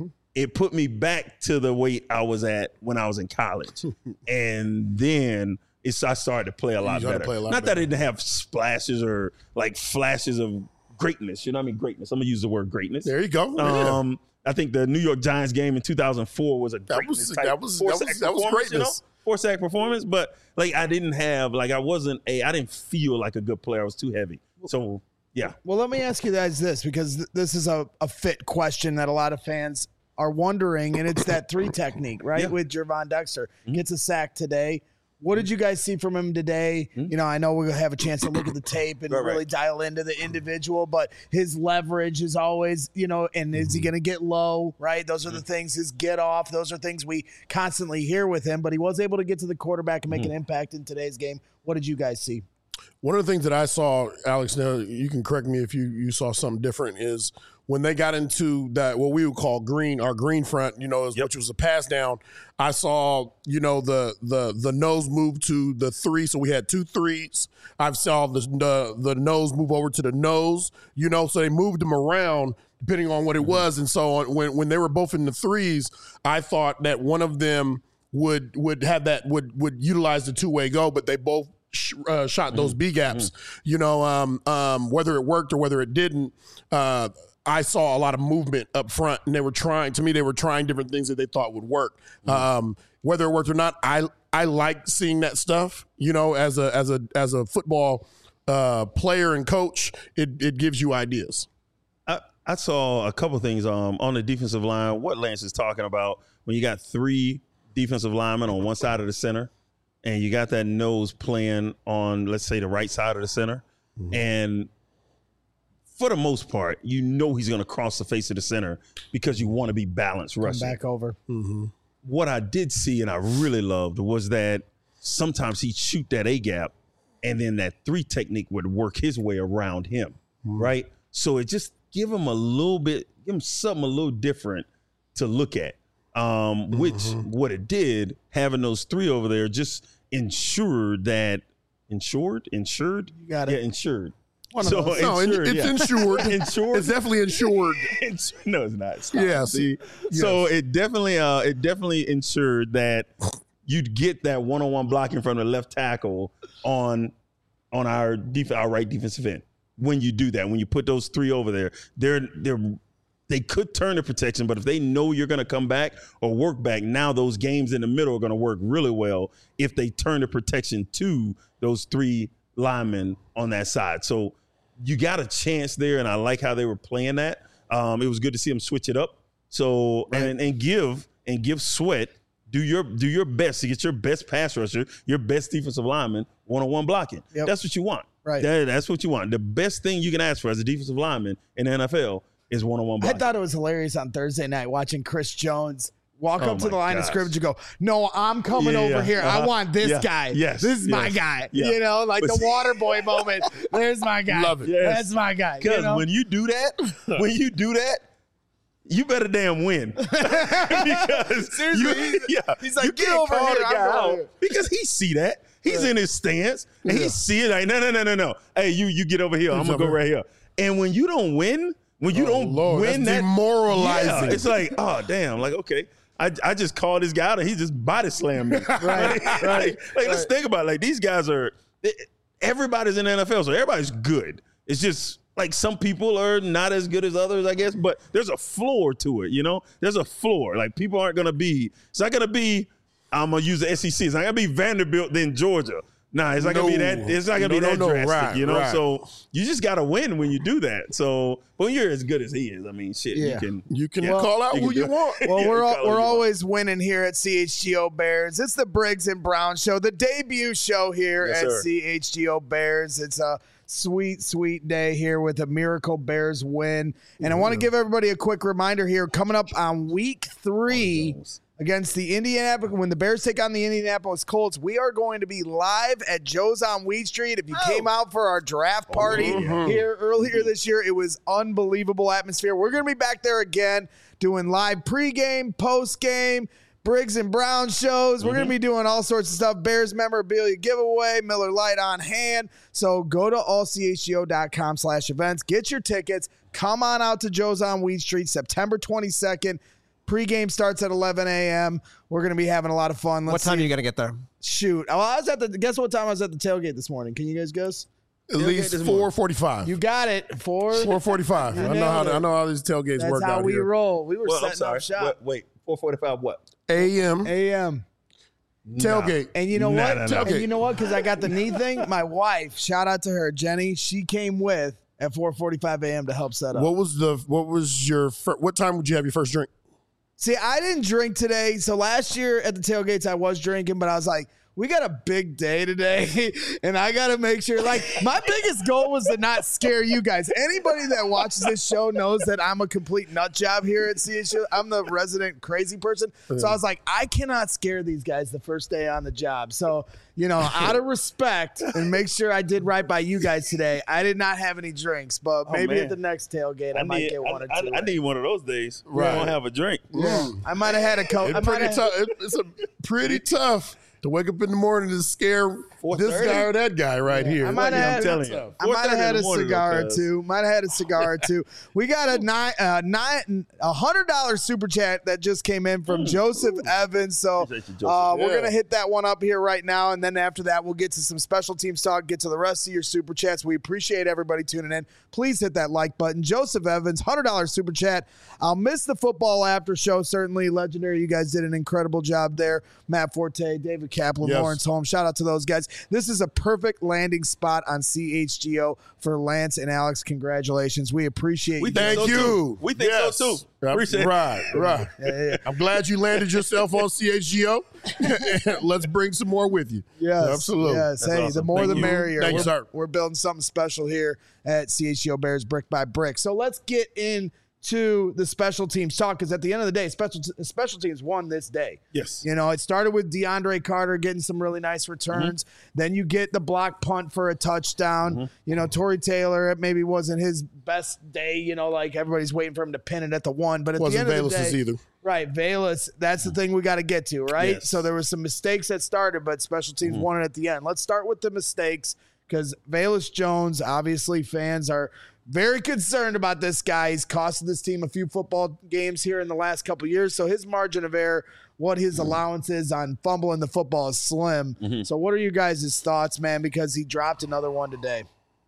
it put me back to the weight I was at when I was in college. And then it's I started to play a lot
started to
better.
play a lot
Not that
better.
I didn't have splashes or like flashes of greatness. You know what I mean? Greatness. I'm going to use the word greatness.
There you go. Yeah.
Um, I think the New York Giants game in two thousand four was a
That
greatness
was-
type
that was-
four
that
sack
was- that was
performance, you know?
greatness.
Four sack performance, but like I didn't have like I wasn't a I didn't feel like a good player. I was too heavy. So yeah,
Well, let me ask you guys this, because th- this is a, a fit question that a lot of fans are wondering, and it's that three technique, right?
Yeah.
With Gervon Dexter. Gets a sack today. What did you guys see from him today? You know, I know we'll have a chance to look at the tape and
Right, right.
really dial into the individual, but his leverage is always, you know, and is he going to get low, right? Those are the things, his get off. Those are things we constantly hear with him, but he was able to get to the quarterback and make an impact in today's game. What did you guys see?
One of the things that I saw, Alex, now you can correct me if you, you saw something different, is when they got into that, what we would call green, our green front, you know,
Yep.
which was a pass down, I saw, you know, the the the nose move to the three. So we had two threes. I saw the, the, the nose move over to the nose, you know, so they moved them around depending on what it was. And so on, when, when they were both in the threes, I thought that one of them would would have that, would, would utilize the two-way go, but they both sh- uh, shot those B gaps, you know, um, um, whether it worked or whether it didn't. Uh, I saw a lot of movement up front, and they were trying. To me, they were trying different things that they thought would work. Mm-hmm. Um, whether it worked or not, I I like seeing that stuff. You know, as a as a as a football uh, player and coach, it it gives you ideas.
I, I saw a couple things um, on the defensive line. What Lance is talking about when you got three defensive linemen on one side of the center, and you got that nose playing on, let's say, the right side of the center, mm-hmm. and for the most part, you know he's going to cross the face of the center because you want to be balanced rushing.
Come back over.
Mm-hmm.
What I did see and I really loved was that sometimes he'd shoot that A-gap, and then that three technique would work his way around him, mm-hmm. right? So it just give him a little bit, give him something a little different to look at, um, which mm-hmm. what it did, having those three over there just ensured that, insured? Insured?
You got it.
Yeah, insured.
One so of no, insured, it's yeah. insured. insured. It's definitely insured.
No, it's not. Stop.
Yes.
See?
yes.
So it definitely, uh, it definitely ensured that you'd get that one-on-one blocking from the left tackle on, on our def- our right defensive end. When you do that, when you put those three over there, they're they're they could turn the protection, but if they know you're going to come back or work back, now those games in the middle are going to work really well if they turn the protection to those three linemen on that side. So you got a chance there, and I like how they were playing that. Um, it was good to see them switch it up. So right. and and give and give Sweat do your do your best to get your best pass rusher, your best defensive lineman one-on-one blocking.
Yep.
That's what you want.
Right.
That, that's what you want. The best thing you can ask for as a defensive lineman in the N F L is one-on-one blocking.
I thought it was hilarious on Thursday night watching Chris Jones walk
oh
up to the line
gosh.
of scrimmage and go, no, I'm coming
yeah,
over
yeah.
here.
Uh-huh.
I want this
yeah.
guy.
Yes.
This is
yes.
my guy.
Yeah.
You know, like
but
the
see,
water boy moment. There's my guy.
Love it.
Yes.
That's my guy.
Because
you know?
when you do that, when you do that, you better damn win. Because
seriously,
you, yeah,
he's like,
you
get
can't
over
call
here.
the
I'm
guy out
here.
because he see that. He's
right.
in his stance and
yeah.
he see it like, no, no, no, no, no. Hey, you you get over here.
He's
I'm going to go
over.
right here. And when you don't win, when you
Oh,
don't
Lord,
win
that's
that.
demoralizing.
Yeah, it's like, oh, damn. Like, okay. I, I just called this guy out and he just body slammed me.
Right, right.
like, like
right.
let's think about it. Like, these guys are, everybody's in the N F L, so everybody's good. It's just like some people are not as good as others, I guess, but there's a floor to it, you know? There's a floor. Like, people aren't going to be, it's not going to be, I'm going to use the S E C. It's not going to be Vanderbilt, then Georgia. Nah, it's not
No.
gonna be that. It's not gonna
No,
be that
no, no.
drastic,
Right,
you know.
right.
So you just gotta win when you do that. So, but when you're as good as he is, I mean, shit,
Yeah.
you can
You can
yeah,
call out
you
who
can
you
do-
want.
Well,
Yeah,
we're
you
all,
call it
we're
what you
always winning here at C H G O Bears. It's the Briggs and Brown Show, the debut show here
Yes,
at
sir.
C H G O Bears. It's a sweet, sweet day here with a Miracle Bears win. And I want to give everybody a quick reminder here. Coming up on week three against the Indianapolis, when the Bears take on the Indianapolis Colts, we are going to be live at Joe's on Weed Street. If you
Oh.
came out for our draft party
yeah.
here earlier this year, it was unbelievable atmosphere. We're going to be back there again doing live pregame, postgame, Briggs and Brown shows. We're
Mm-hmm.
going to be doing all sorts of stuff. Bears memorabilia giveaway, Miller Lite on hand. So go to all c h g o dot com slash events. Get your tickets. Come on out to Joe's on Weed Street, September twenty-second. Pregame starts at eleven a.m. We're going to be having a lot of fun. Let's
What time
see.
are you going to get there?
Shoot. Oh, I was at the, guess what time I was at the tailgate this morning? Can you guys guess?
At least four forty-five.
You got it. Four.
four forty-five.
You
I know how
nailed it.
I know how these tailgates
That's
work
how
out
we
here.
roll. We were
Well, I'm
setting
sorry.
up shop.
Wait, wait, four forty-five. What?
A M
A M.
tailgate.
And you know
Nah,
what?
nah, nah.
And you know what? Because I got the knee thing. My wife, shout out to her, Jenny. She came with at four forty-five a.m. to help set up.
What was the what was your fir- what time would you have your first drink?
See, I didn't drink today. So last year at the tailgates, I was drinking, but I was like, we got a big day today, and I got to make sure. Like, my biggest goal was to not scare you guys. Anybody that watches this show knows that I'm a complete nut job here at C H U. I'm the resident crazy person. So I was like, I cannot scare these guys the first day on the job. So, you know, out of respect and make sure I did right by you guys today, I did not have any drinks, but maybe
man.
at the next tailgate, I,
I
might
need,
get one
I,
or two.
I, I need one of those days.
Right.
I don't have a drink.
I might have had a coat. I
It's
might
pretty
have
tough. It- It's a pretty tough to wake up in the morning to scare this guy or that guy right here.
I might
Like,
have
I'm telling
had,
you.
I might have had a cigar or
cuz.
two. Might have had a cigar or two. We got a nine, uh, nine, a hundred dollar super chat that just came in from
Mm.
Joseph Evans. So
Appreciate you, Joseph.
uh, we're
Yeah.
gonna hit that one up here right now, and then after that, we'll get to some special teams talk. Get to the rest of your super chats. We appreciate everybody tuning in. Please hit that like button. Joseph Evans, hundred dollar super chat. I'll miss the football after show. Certainly legendary. You guys did an incredible job there. Matt Forte, David Kaplan,
Yes.
Lawrence Holmes. Shout out to those guys. This is a perfect landing spot on C H G O for Lance and Alex. Congratulations. We appreciate
We
you.
think
Thank
so
you.
too. We think
Yes.
so too. Appreciate it.
Right, right. I'm glad you landed yourself on C H G O. Let's bring some more with you.
Yes,
Absolutely.
Yes,
That's
hey, the
awesome.
more
Thank
the
you.
merrier.
Thank you,
we're,
sir.
we're building something special here at C H G O Bears Brick by Brick. So let's get into the special teams talk, because at the end of the day, special special teams won this day.
Yes.
You know, it started with DeAndre Carter getting some really nice returns.
Mm-hmm.
Then you get the block punt for a touchdown.
Mm-hmm.
You know, Torrey Taylor, it maybe wasn't his best day. You know, like everybody's waiting for him to pin it at the one. But at
Wasn't
the end of the
Bayless's
day,
either.
right, Bayless, that's the thing we got to get to, right?
Yes.
So there were some mistakes that started, but special teams won it at the end. Let's start with the mistakes, because Velus Jones, obviously fans are very concerned about this guy. He's costed this team a few football games here in the last couple of years. So his margin of error, what his allowance is on fumbling the football is slim. So what are you guys' thoughts, man? Because he dropped another one today.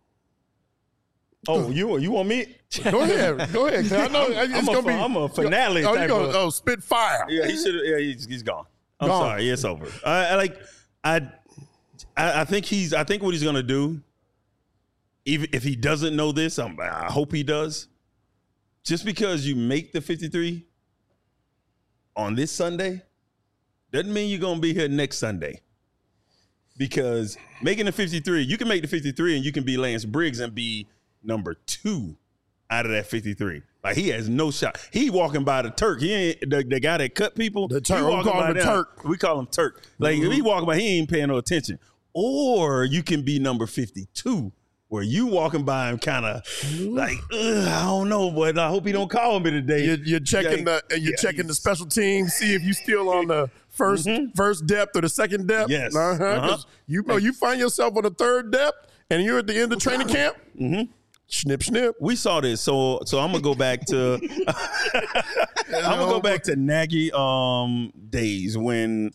Oh, you you want me?
Go ahead. Go ahead. 'Cause I know it's
I'm,
going
a,
to be.
I'm a finale
Oh, you
type
going
of.
oh, spit fire.
Yeah, he should. Yeah, he's, he's gone. I'm
Gone.
sorry. It's over. I, I like. I, I I think he's. I think what he's gonna do. Even if he doesn't know this, I'm, I hope he does. Just because you make the fifty-three on this Sunday doesn't mean you're gonna be here next Sunday. Because making the fifty-three, you can make the fifty-three and you can be Lance Briggs and be number two out of that fifty-three. Like, he has no shot. He walking by the Turk. He ain't the, the guy that cut people.
The Turk.
He
We
walking
call
by
him the
them.
Turk.
We call him Turk. Like, if he walking by, he ain't paying no attention. Or you can be number fifty-two, where you walking by him kind of like, ugh, I don't know, but I hope he don't call me today.
You're, you're checking
Yeah,
the you're
yeah,
checking the
he's-
special team, see if you still on the 1st first depth or the second depth.
Yes.
uh-huh. 'Cause
Uh-huh.
You know, you find yourself on the third depth, and you're at the end of training camp. Mm-hmm. Snip, snip.
We saw this, so so I'm gonna go back to I'm gonna go back to Nagy um days when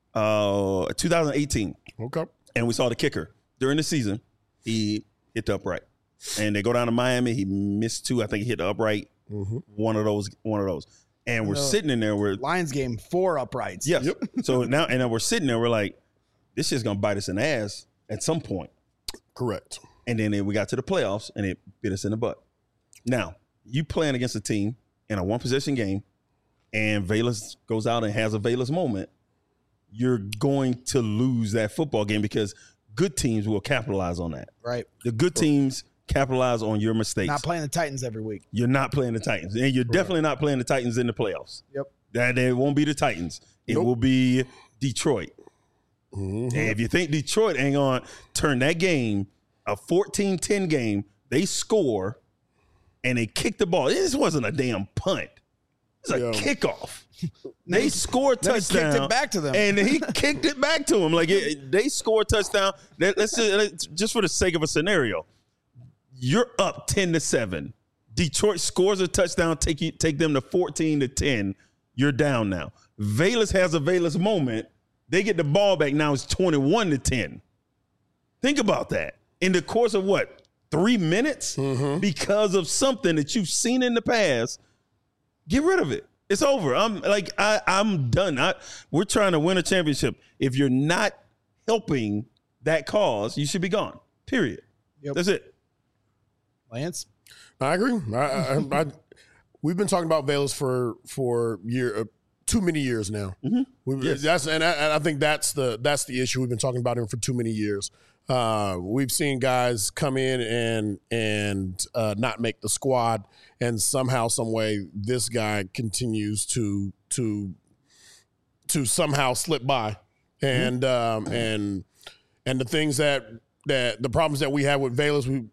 uh twenty eighteen,
Okay.
and we saw the kicker during the season. He hit the upright, and they go down to Miami. He missed two. I think he hit the upright. One of those. One of those. And we're sitting in there. We're
Lions game, four uprights.
yes. So now, and then we're sitting there. We're like, this shit's gonna bite us in the ass at some point.
Correct.
And then we got to the playoffs, and it bit us in the butt. Now, you playing against a team in a one-possession game, and Velus goes out and has a Velus moment, you're going to lose that football game because good teams will capitalize on that.
Right.
The good teams capitalize on your mistakes.
Not playing the Titans every week.
You're not playing the Titans, and you're definitely not playing the Titans in the playoffs.
Yep.
That it won't be the Titans. It
Nope.
will be Detroit.
Mm-hmm.
And if you think Detroit ain't going to turn that game, a fourteen ten game, they score and they kick the ball. This wasn't a damn punt. It's a
Yeah.
kickoff. They scored
Then he
touchdown.
kicked it back to them.
And he kicked it back to him. Like, it, they scored touchdown. Let- Let's just, let's- just for the sake of a scenario, you're up ten to seven. Detroit scores a touchdown, take you, take them to fourteen to ten. You're down now. Velus has a Velus moment. They get the ball back. Now it's twenty-one to ten. Think about that. In the course of what? Three minutes? Because of something that you've seen in the past, get rid of it. It's over. I'm like, I, I'm done. I, we're trying to win a championship. If you're not helping that cause, you should be gone. Period.
Yep.
That's it.
Lance?
I agree. I, I, I, we've been talking about Velus for for year uh, too many years now. We,
Yes.
That's and I, and I think that's the that's the issue. We've been talking about him for too many years. Uh, we've seen guys come in and and uh, not make the squad, and somehow, some way, this guy continues to to to somehow slip by, and um, and and the things that that the problems that we have with Velus, we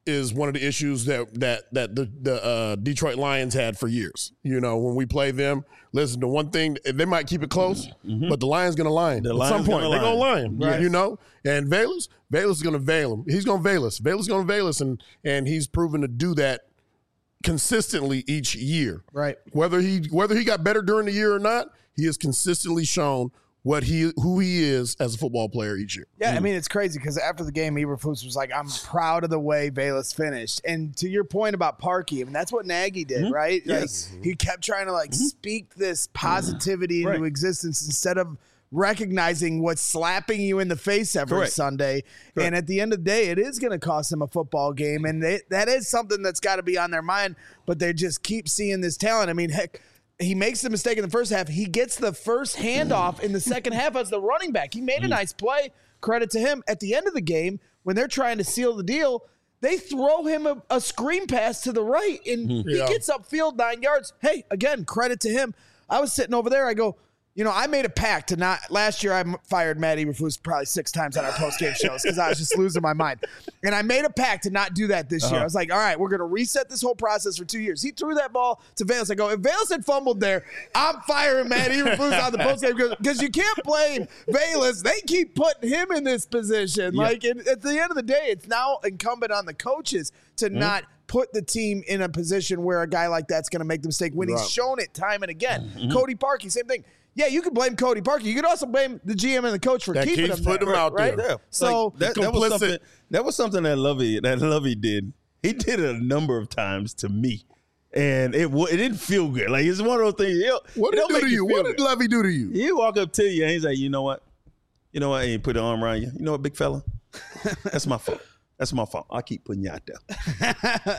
is one of the issues that that that the, the uh, Detroit Lions had for years. You know, when we play them, listen, the one thing, they might keep it close, mm-hmm. but the Lion's going to line. The At some point, they're going to line, right. you know? And Velus, Velus is going to veil him. He's going to veil us. Velus is going to veil us, and, and he's proven to do that consistently each year.
Right.
Whether he whether he got better during the year or not, he has consistently shown what he who he is as a football player each year.
Yeah,
mm.
I mean, it's crazy because after the game, Eberflus was like, I'm proud of the way Velus finished. And to your point about Parkey, I mean, that's what Nagy did, mm-hmm. right?
Yes.
Like, he kept trying to, like, mm-hmm. speak this positivity mm-hmm. into right. existence instead of recognizing what's slapping you in the face every Correct. Sunday. Correct. And at the end of the day, it is going to cost them a football game. And they, that is something that's got to be on their mind, but they just keep seeing this talent. I mean, heck, he makes the mistake in the first half. He gets the first handoff in the second half as the running back. He made a nice play. Credit to him. At the end of the game, when they're trying to seal the deal, they throw him a, a screen pass to the right, and yeah. he gets upfield nine yards. Hey, again, credit to him. I was sitting over there. I go, you know, I made a pact to not – last year I fired Matt Eberflus probably six times on our post-game shows because I was just losing my mind. And I made a pact to not do that this uh-huh. year. I was like, all right, we're going to reset this whole process for two years. He threw that ball to Velus. I go, if Velus had fumbled there, I'm firing Matt Eberflus on the post-game because you can't blame Velus. They keep putting him in this position. Yeah. Like, it, at the end of the day, it's now incumbent on the coaches to mm-hmm. not put the team in a position where a guy like that's going to make the mistake when right. he's shown it time and again. Mm-hmm. Cody Parkey, same thing. Yeah, you can blame Cody Parkey. You could also blame the G M and the coach for
that
keeping him there.
Him out
right?
there.
Yeah.
So
like that, that was something. That was something that Lovey that Lovey did. He did it a number of times to me, and it it didn't feel good. Like it's one of those things. It,
what did
it
he do to you? What did Lovey do to you?
He walk up to you and he's like, you know what? You know what? He put an arm around you. You know what, big fella? That's my fault. That's my fault. I keep putting you out there.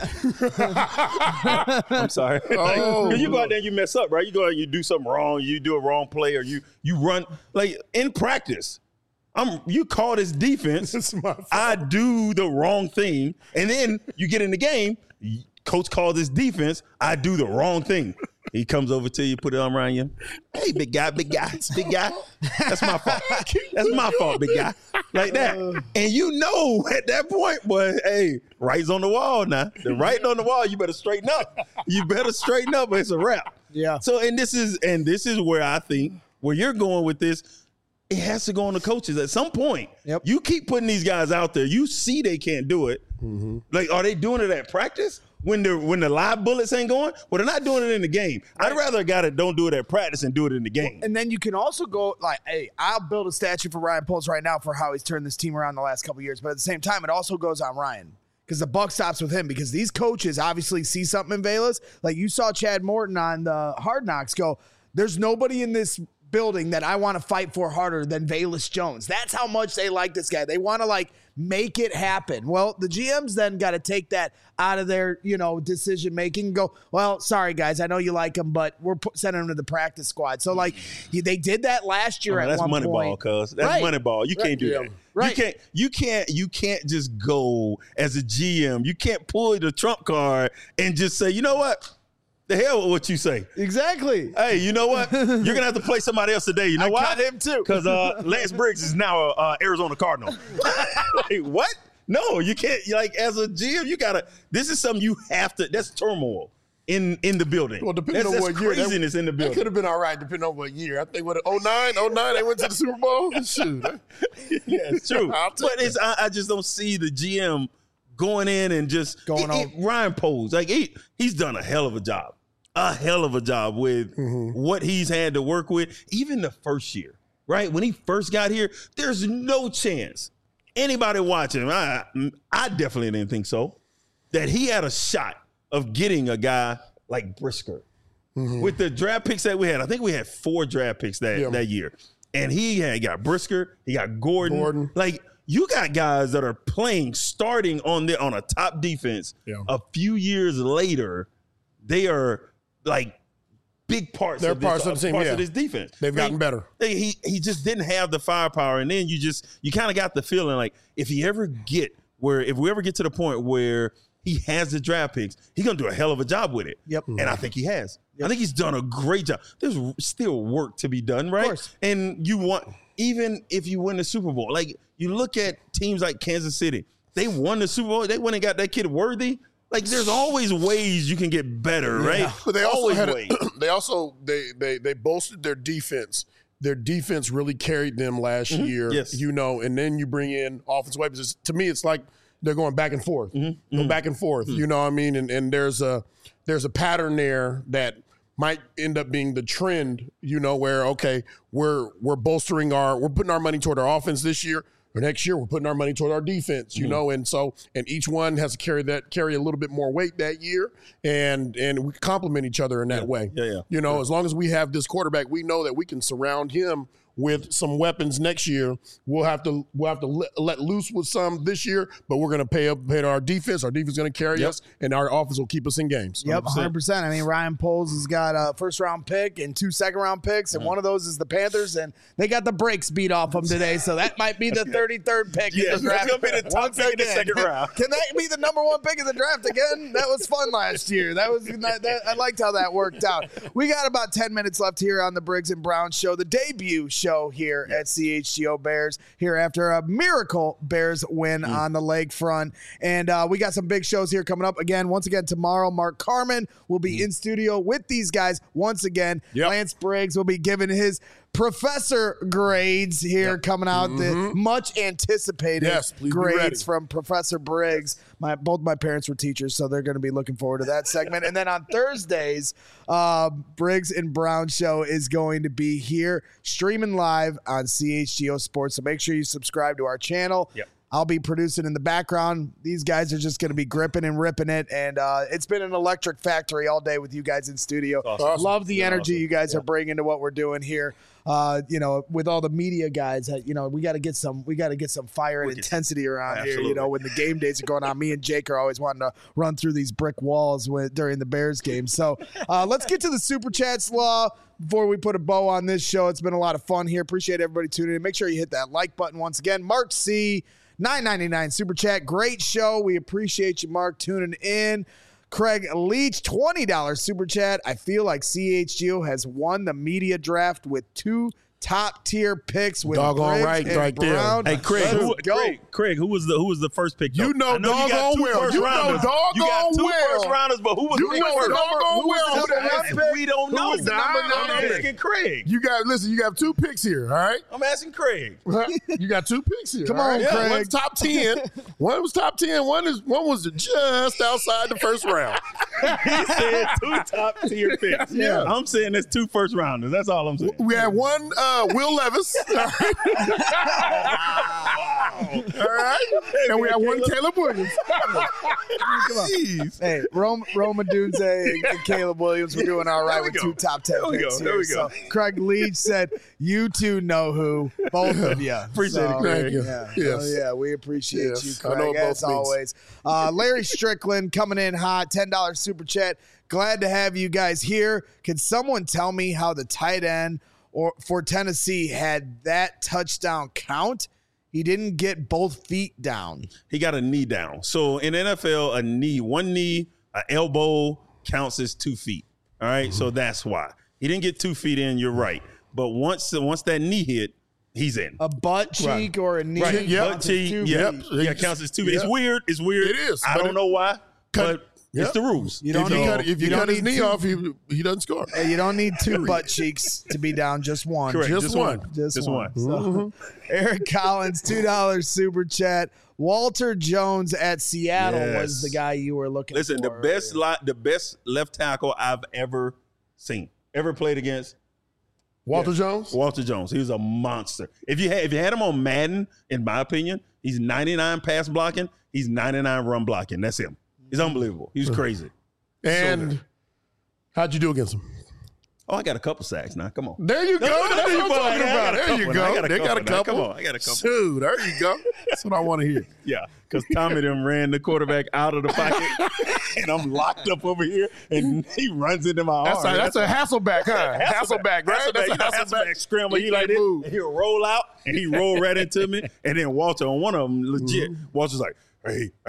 I'm sorry. Oh. Like, you go out there and you mess up, right? You go out and you do something wrong. You do a wrong play or you you run. Like, in practice, I'm you call this defense.
This is my fault.
I do the wrong thing. And then you get in the game, coach calls this defense. I do the wrong thing. He comes over to you, put it arm around you. Hey, big guy, big guy, big guy. That's my fault. That's my fault, big guy. Like that. And you know at that point, boy, hey, right's on the wall now. The writing on the wall, you better straighten up. You better straighten up or it's a wrap.
Yeah.
So, and this is and this is where I think where you're going with this, it has to go on the coaches. At some point,
yep.
you keep putting these guys out there. You see they can't do it. Mm-hmm. Like, are they doing it at practice? When the when the live bullets ain't going, well, they're not doing it in the game. Right. I'd rather a guy that don't do it at practice and do it in the game.
And then you can also go like, hey, I'll build a statue for Ryan Poles right now for how he's turned this team around the last couple of years. But at the same time, it also goes on Ryan because the buck stops with him because these coaches obviously see something in Velus. Like you saw Chad Morton on the Hard Knocks go, there's nobody in this building that I want to fight for harder than Velus Jones. That's how much they like this guy. They want to like make it happen. Well, the G Ms then got to take that out of their, you know, decision making and go, well, sorry guys, I know you like him, but we're put, sending him to the practice squad. So like they did that last year. Oh, at
that's
one
money
point.
ball, cuz that's right. money ball. You
right.
can't do
yeah.
that.
Right.
You can't. You can't. You can't just go as a G M. You can't pull the trump card and just say, you know what? The hell with what you say.
Exactly.
Hey, you know what? You're going to have to play somebody else today. You know
I
why?
cut him too.
Because uh, Lance Briggs is now a uh, Arizona Cardinal. Like, what? No, you can't. Like, as a G M, you got to – this is something you have to – that's turmoil in, in the building.
Well, depending
that's,
on
that's
what year.
craziness
that,
in the building.
That could have been all right depending on what year. I think, what, oh nine, oh nine, they went to the Super Bowl? Shoot.
Yeah, it's true. But it's, I, I just don't see the G M going in and just –
going
it,
on.
It, Ryan Poles, like, he, he's done a hell of a job. A hell of a job with mm-hmm. what he's had to work with, even the first year, right? When he first got here, there's no chance anybody watching, I, I definitely didn't think so, that he had a shot of getting a guy like Brisker. Mm-hmm. With the draft picks that we had, I think we had four draft picks that, yeah. that year. And he had got Brisker, he got Gordon.
Gordon.
Like, you got guys that are playing, starting on the on a top defense.
Yeah.
A few years later, they are like big parts,
They're
of,
parts,
this,
of, the team,
parts
yeah.
of this defense.
They've
like,
gotten better.
They, he he just didn't have the firepower, and then you just you kind of got the feeling like if he ever get where if we ever get to the point where he has the draft picks, he's gonna do a hell of a job with it.
Yep,
and I think he has.
Yep.
I think he's done a great job. There's still work to be done, right?
Of course.
And you want even if you win the Super Bowl, like you look at teams like Kansas City. They won the Super Bowl. They went and got that kid Worthy. Like, there's always ways you can get better, right?
Yeah. But they also
always
had
ways.
a, they also they they they bolstered their defense. Their defense really carried them last
mm-hmm.
year.
Yes.
You know, and then you bring in offensive weapons. It's, to me, it's like they're going back and forth.
Mm-hmm.
Go back and forth. Mm-hmm. You know what I mean? And and there's a there's a pattern there that might end up being the trend, you know, where okay, we're we're bolstering our we're putting our money toward our offense this year. Or next year, we're putting our money toward our defense, you mm-hmm. know, and so and each one has to carry that carry a little bit more weight that year, and and we complement each other in that
yeah.
way.
Yeah, yeah.
You know,
yeah.
as long as we have this quarterback, we know that we can surround him with some weapons next year. We'll have to we'll have to let, let loose with some this year, but we're going to pay up pay to our defense. Our defense is going to carry
yep.
us, and our offense will keep us in games.
Yep, one hundred percent. I mean, Ryan Poles has got a first round pick and two second round picks, and mm-hmm. one of those is the Panthers, and they got the brakes beat off them today, so that might be the thirty-third pick
yeah,
in the draft.
That's going to be the top pick in the second round.
Can that be the number one pick in the draft again? That was fun last year. That was that, that, I liked how that worked out. We got about ten minutes left here on the Briggs and Brown Show, the debut show here yeah. at C H G O Bears here after a miracle Bears win mm. on the lakefront. And uh, we got some big shows here coming up. Again, once again, tomorrow, Mark Carman will be mm. in studio with these guys once again. Yep. Lance Briggs will be giving his professor grades here yep. coming out. Mm-hmm. The much anticipated
yes,
grades from Professor Briggs. My both my parents were teachers, so they're going to be looking forward to that segment. And then on Thursdays, uh, Briggs and Brown Show is going to be here streaming live on C H G O Sports. So make sure you subscribe to our channel.
Yep.
I'll be producing in the background. These guys are just going to be gripping and ripping it. And uh, it's been an electric factory all day with you guys in studio.
Awesome.
Love the energy
awesome.
you guys
yeah.
are bringing to what we're doing here. Uh, you know, with all the media guys, you know, we got to get some, we got to get some fire and intensity around
Absolutely.
here. You know, when the game days are going on, me and Jake are always wanting to run through these brick walls with, during the Bears game. So uh, let's get to the Super Chats law before we put a bow on this show. It's been a lot of fun here. Appreciate everybody tuning in. Make sure you hit that like button once again. Mark C, nine ninety-nine Super Chat. Great show. We appreciate you, Mark, tuning in. Craig Leach, twenty dollars Super Chat. I feel like C H G O has won the media draft with two top tier picks with
doggone right,
and
right
Brown.
there.
Hey, Craig, who,
go.
Craig, Craig, who was the who was the first pick? Though?
You know,
I know you got
doggone
two
well.
first
You know,
rounders.
doggone
You got two
well.
first rounders, but who was
You
the
know,
first?
doggone
Who was
well.
the number one pick?
We don't
Who
know.
was the number
I'm
one pick?
asking Craig.
You got listen. You got two picks here. All right.
I'm asking Craig.
You got two picks here.
Come
all
on,
right?
Craig.
One's top ten. One was top ten. One is one was just outside the first round.
He said two top tier picks.
Yeah.
I'm saying there's two first rounders. That's all I'm saying.
We had one uh, Will Levis. All right. All right. And we had one Caleb Williams. Jeez.
Hey, Rome, Roma Dunze and, and Caleb Williams were doing all right with
go.
two top ten
There we
picks
go.
here.
There we go.
So Craig Leach said, "You two know who, both of you."
Appreciate it,
So,
Craig.
Thank you.
Yeah,
Yes.
oh, yeah, we appreciate
Yes.
you,
I know
Craig,
it both
as
means.
always. Uh, Larry Strickland coming in hot, ten dollars Super Chat. Glad to have you guys here. Can someone tell me how the tight end or for Tennessee had that touchdown count? He didn't get both feet down.
He got a knee down. So in N F L, a knee, one knee, an elbow counts as two feet. All right, mm-hmm. So that's why he didn't get two feet in. You're right, but once once that knee hit, he's in.
A butt cheek
Right.
or a knee.
Right,
Yep.
butt cheek.
Two
Yep,
feet.
yeah, it counts as two feet. It's
Yep.
weird. It's weird.
It is,
I
but
don't
it-
know why,
Cut-
but
Yep.
it's the rules.
You don't
If you
need-
cut, if you
you don't
cut his
need
knee
two-
off, he he doesn't score.
Hey, you don't need two butt cheeks to be down, just one.
Correct.
Just
Just
one.
one.
Just,
Just
one.
one.
So, Eric Collins, two dollars Super Chat. Walter Jones at Seattle
Yes.
was the guy you were looking
Listen,
for.
the best li- the best left tackle I've ever seen, ever played against.
Walter
Yeah.
Jones.
Walter Jones. He was a monster. If you had if you had him on Madden, in my opinion, he's ninety-nine pass blocking. He's ninety-nine run blocking. That's him. He's unbelievable. He's crazy.
And
So
how'd you do against him?
Oh, I got a couple sacks now. Come on.
There you go.
No,
That's
no,
what I'm
no,
talking
I got
about.
a
There you
couple
go.
now. I got a
They got a
couple now.
couple.
Come on, I got a couple.
Dude, there you go. That's what I want to hear.
Yeah, because Tommy them ran the quarterback out of the pocket, and I'm locked up over here, and he runs into my
That's
arm.
a, that's a Hasselback, huh? Hasselback, right?
Hasselback,
That's
you
a
know,
Hasselback.
Hasselback scramble. He,
He
like
like
this,
move.
and he'll roll out, and he roll right into me. And then Walter on one of them, legit, Walter's like, "Hey, hey,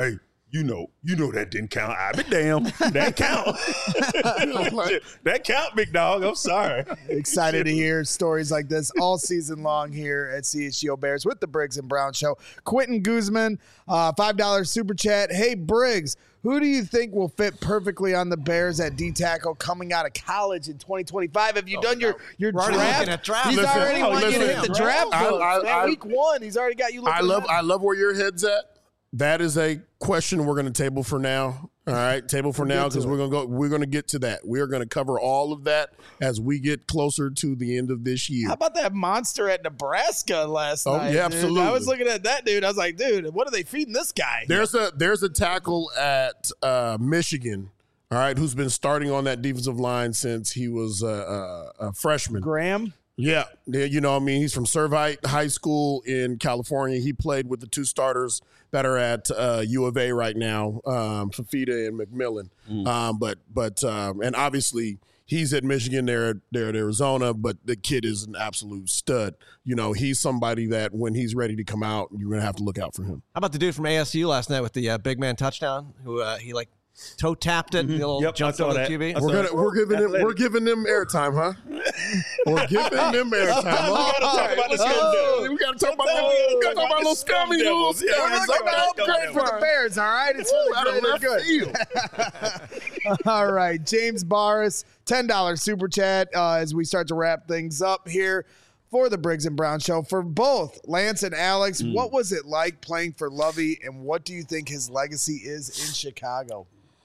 You know, you know that didn't count. I be damn. That count. That count, big dog. I'm sorry.
Excited to hear stories like this all season long here at C H G O Bears with the Briggs and Brown Show. Quentin Guzman, uh, five dollars super chat. Hey, Briggs, who do you think will fit perfectly on the Bears at D-tackle coming out of college in twenty twenty-five? Have you
Oh,
done your, your
we're already
draft?
looking at draft.
He's
Listen,
already
oh,
wanting you to
listen.
hit the draft
I-
book.
I-
Man,
I-
week one, he's already got you looking
I love
ahead.
I love where your head's at. That is a question we're going to table for now. All right, table for now because we're going to go. We're going to get to that. We are going to cover all of that as we get closer to the end of this year.
How about that monster at Nebraska last
Oh,
night?
yeah,
dude?
absolutely.
I was looking at that dude. I was like, dude, what are they feeding this guy?
There's a there's a tackle at uh, Michigan. All right, who's been starting on that defensive line since he was a, a, a freshman.
Graham.
Yeah, yeah, you know, I mean, he's from Servite High School in California. He played with the two starters that are at uh, U of A right now, um, Fafita and McMillan.
Mm.
Um, but but um, and obviously he's at Michigan. They're they're at Arizona, but the kid is an absolute stud. You know, he's somebody that when he's ready to come out, you're gonna have to look out for him.
How about the dude from A S U last night with the uh, big man touchdown? Who uh, he like toe tapped it, and the little
Yep, I
jumped
saw
over the
that.
Q B.
I
We're
saw
gonna we're giving them we're giving them airtime, huh? We're giving them airtime.
gotta talk about the scum
Oh,
devils.
we gotta talk about
Sometimes we
we
gotta
gotta
talk
talk about
about
little
the scum
scummy little
devils. Yeah,
scummy.
we're
Look,
talking
I'm
about
great
them
for the
devils.
Bears, all right? It's
Ooh, out of
really
left
good.
field.
All right, James Barris, ten dollars super chat uh, as we start to wrap things up here for the Briggs and Brown Show. For both Lance and Alex,
Mm.
what was it like playing for Lovey, and what do you think his legacy is in Chicago?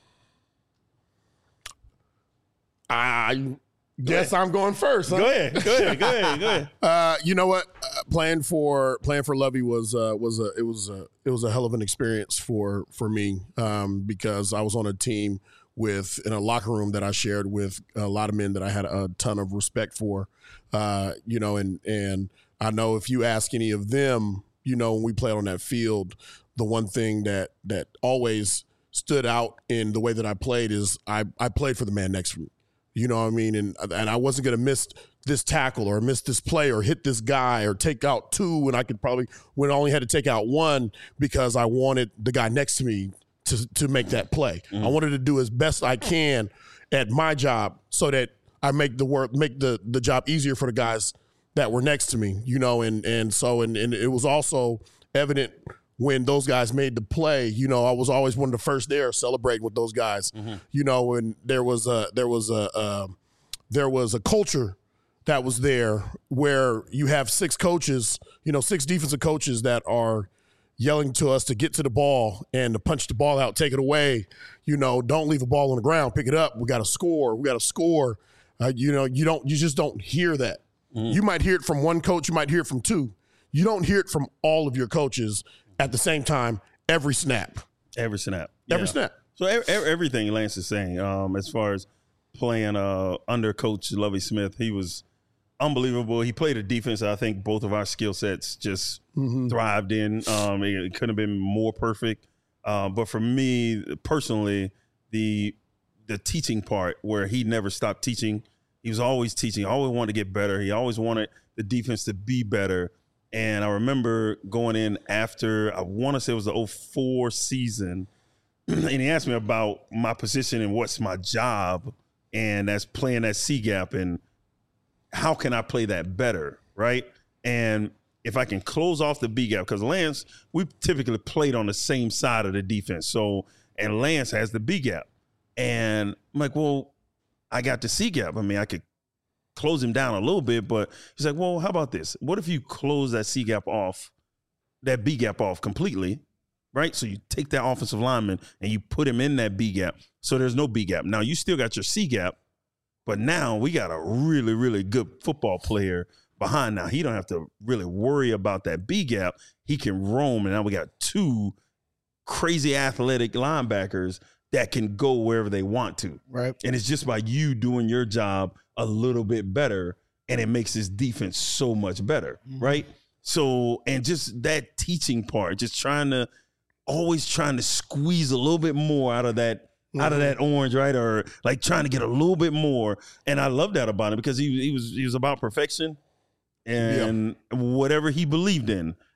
I guess I'm going first. Huh?
Go ahead. Go ahead. Go ahead. Go ahead.
Uh, you know what? Uh, playing for playing for Lovey was uh, was a it was a it was a hell of an experience for for me um, because I was on a team with in a locker room that I shared with a lot of men that I had a ton of respect for. Uh, you know, and and I know if you ask any of them, you know, when we played on that field, the one thing that that always stood out in the way that I played is I I played for the man next to me. You know what I mean? And and I wasn't going to miss this tackle or miss this play or hit this guy or take out two when I could probably when I only had to take out one because I wanted the guy next to me to to make that play. Mm-hmm. I wanted to do as best I can at my job so that I make the work make the the job easier for the guys that were next to me. You know, and and so and, and it was also evident when those guys made the play, you know, I was always one of the first there celebrating with those guys. Mm-hmm. You know, and there was a there was a uh, there was a culture that was there where you have six coaches, you know, six defensive coaches that are yelling to us to get to the ball and to punch the ball out, take it away. You know, don't leave a ball on the ground, pick it up. We got to score. We got to score. Uh, you know, you don't you just don't hear that. Mm-hmm. You might hear it from one coach. You might hear it from two. You don't hear it from all of your coaches at the same time, every snap.
Every snap.
Every
Yeah.
snap.
So every, everything Lance is saying, um, as far as playing uh, under Coach Lovie Smith, he was unbelievable. He played a defense that I think both of our skill sets just mm-hmm. thrived in. Um, it, it couldn't have been more perfect. Uh, but for me personally, the the teaching part where he never stopped teaching, he was always teaching, always wanted to get better. He always wanted the defense to be better. And I remember going in after, I want to say it was the oh four season, and he asked me about my position and what's my job, and that's playing that C-gap, and how can I play that better, right? And if I can close off the B-gap, because Lance, we typically played on the same side of the defense, so, and Lance has the B-gap. And I'm like, well, I got the C-gap. I mean, I could close him down a little bit, but he's like, well, how about this? What if you close that C gap off, that B gap off completely, right? So you take that offensive lineman and you put him in that B gap, so there's no B gap. Now you still got your C gap, but now we got a really, really good football player behind. Now he don't have to really worry about that B gap. He can roam, and now we got two crazy athletic linebackers that can go wherever they want to.
Right.
And it's just by you doing your job a little bit better, and it makes his defense so much better, mm-hmm. right? So, and just that teaching part, just trying to, always trying to squeeze a little bit more out of that, mm-hmm. out of that orange, right? Or like trying to get a little bit more. And I love that about him because he, he was he was about perfection and yeah. whatever he believed in.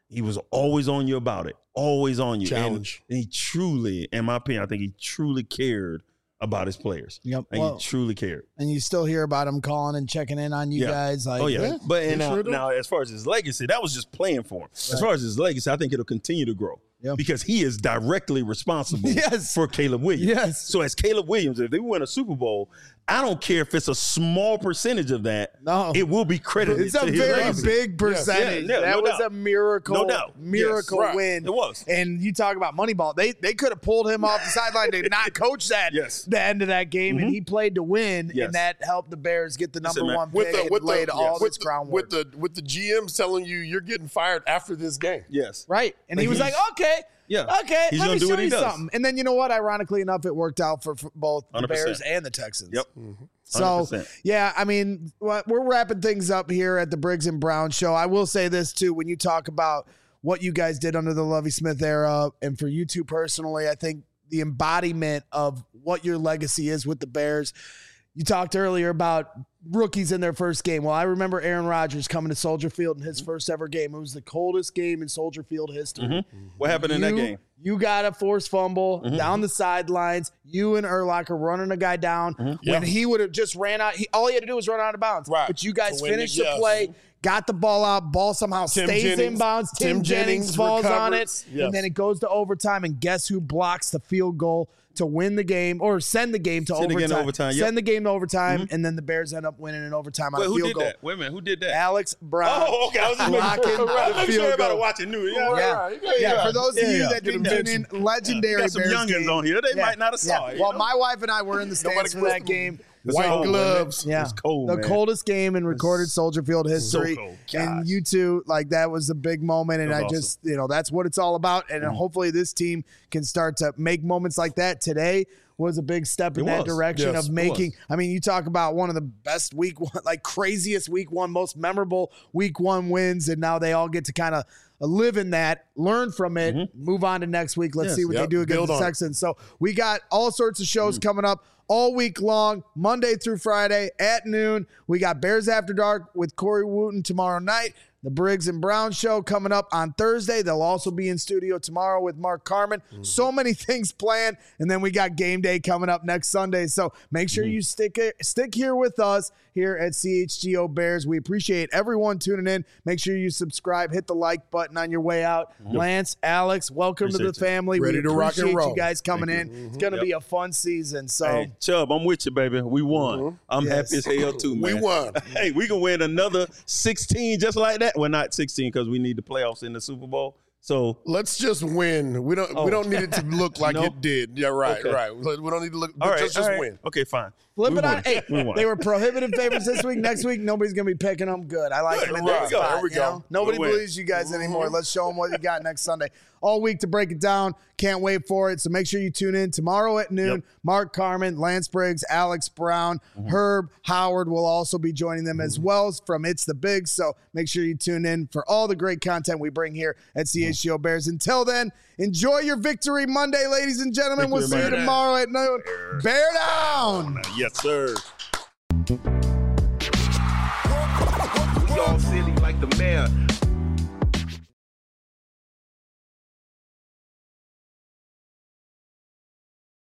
He was always on you about it, always on you.
Challenge.
And, and he truly, in my opinion, I think he truly cared about his players.
Yep.
And
Well,
he truly cared.
and you still hear about him calling and checking in on you
Yeah.
guys. Like,
Oh yeah,
yeah,
but and
he
now,
sure do.
now as far as his legacy, that was just playing for him. As far as his legacy, I think it'll continue to grow
Yeah.
because he is directly responsible
Yes.
for Caleb Williams.
Yes.
So as Caleb Williams, if they win a Super Bowl, I don't care if it's a small percentage of that.
No.
It will be credited.
It's a
to his
very
legacy.
big percentage.
Yeah, yeah,
that
no
was
doubt.
a miracle,
No doubt.
miracle
Yes, right.
win.
It was.
And you talk about Moneyball. They they could have pulled him off the sideline. They did not coach that
Yes.
the end of that game, and he played to win,
Yes.
and that helped the Bears get the number
Listen, man,
one
With
pick
the
and
with the
laid all
with
this
the,
groundwork.
with the with the G M telling you you're getting fired after this game.
Yes.
Right. And he
Like
was like,
he's-
okay.
Yeah.
Okay.
He's
let
gonna
me
do
show
what he
you
does.
something. And then you know what? Ironically enough, it worked out for, for both the
one hundred percent.
Bears and the Texans.
Yep.
So,
one hundred percent.
yeah, I mean, what- we're wrapping things up here at the Briggs and Brown show. I will say this, too. When you talk about what you guys did under the Lovie Smith era, and for you two personally, I think the embodiment of what your legacy is with the Bears. You talked earlier about rookies in their first game. Well, I remember Aaron Rodgers coming to Soldier Field in his first ever game. It was the coldest game in Soldier Field history.
What happened in that
You-
game?
You got a forced fumble down the sidelines. You and Urlacher running a guy down when
Yeah.
he would have just ran out. He, all he had to do was run out of bounds.
Right.
But you guys
To win
finished
the-
the
yes.
play, got the ball out. Ball somehow
Tim
stays in
Jennings-
bounds. Tim,
Tim
Jennings,
Jennings
falls on it.
recovers. Yes.
And then it goes to overtime. And guess who blocks the field goal to win the game or send the game to
Send the
overtime?
game to overtime, yep.
Send the game to overtime. And then the Bears end up winning in overtime on
Wait,
a
who
field
did
goal.
that? Wait a minute. Who did that?
Alex Brown.
Oh, okay. I was just making
Blocking
sure.
the
I'm sure
field
everybody
goal.
watching knew. Yeah,
Yeah.
right.
Yeah, for those of
Yeah,
you
yeah.
that didn't
Get
tune
him
in, legendary
Got some
Bears
youngins
game.
on here. They
Yeah,
might not have
yeah.
saw it. you
Well,
know?
my wife and I were in the stands for that game.
White
cold, man.
gloves.
Yeah,
It's cold,
the
man.
coldest game in recorded Soldier Field history.
cold.
And
Gosh.
you two, like that was a big moment, and
That
I
was
just, you know, that's what it's all about. And hopefully, this team can start to make moments like that. Today was a big step in
It
that
was.
direction
Yes,
of
it
making.
was.
I mean, you talk about one of the best week one, like craziest week one, most memorable week one wins, and now they all get to kind of live in that, learn from it, move on to next week. Let's
Yes.
see what they
Yep.
do against
Build
the
on it.
Texans. So we got all sorts of shows coming up all week long, Monday through Friday at noon. We got Bears After Dark with Corey Wooten tomorrow night. The Briggs and Brown show coming up on Thursday. They'll also be in studio tomorrow with Mark Carman. So many things planned. And then we got game day coming up next Sunday. So make sure you stick it, stick here with us here at C H G O Bears. We appreciate everyone tuning in. Make sure you subscribe, hit the like button on your way out. Lance, Alex, welcome to
Appreciate
the
you.
family.
Ready
we
to rock and
appreciate
roll.
you guys coming
Thank
in. It's going to
Yep.
be a fun season. So
Hey, Chubb, I'm with you, baby. We won. I'm
Yes.
happy as hell too, man.
We won.
Hey, we can win another sixteen just like that. Well, not sixteen because we need the playoffs in the Super Bowl. So
Let's just win. We don't.
Oh.
We don't need it to look like
No?
it did. Yeah, right,
Okay.
right. We don't need to look.
all right,
just just
all right.
win.
Okay, fine.
flip
We
it on.
won.
Hey,
We won.
they were prohibitive favorites this week. Next week, nobody's going to be picking them. Good. I like
Good.
them in
There
that
we go.
spot.
There we
you
go.
know? Nobody
We'll win.
believes you guys anymore. Let's show them what you got next Sunday. All week to break it down. Can't wait for it. So make sure you tune in tomorrow at noon.
Yep.
Mark Carman, Lance Briggs, Alex Brown, Herb Howard will also be joining them as well from It's the Big. So make sure you tune in for all the great content we bring here at C H G O Bears. Until then, enjoy your victory Monday, ladies and gentlemen.
Victory
We'll see you
Monday.
tomorrow at noon. Bear down.
Yes, sir.
We all silly like the mayor.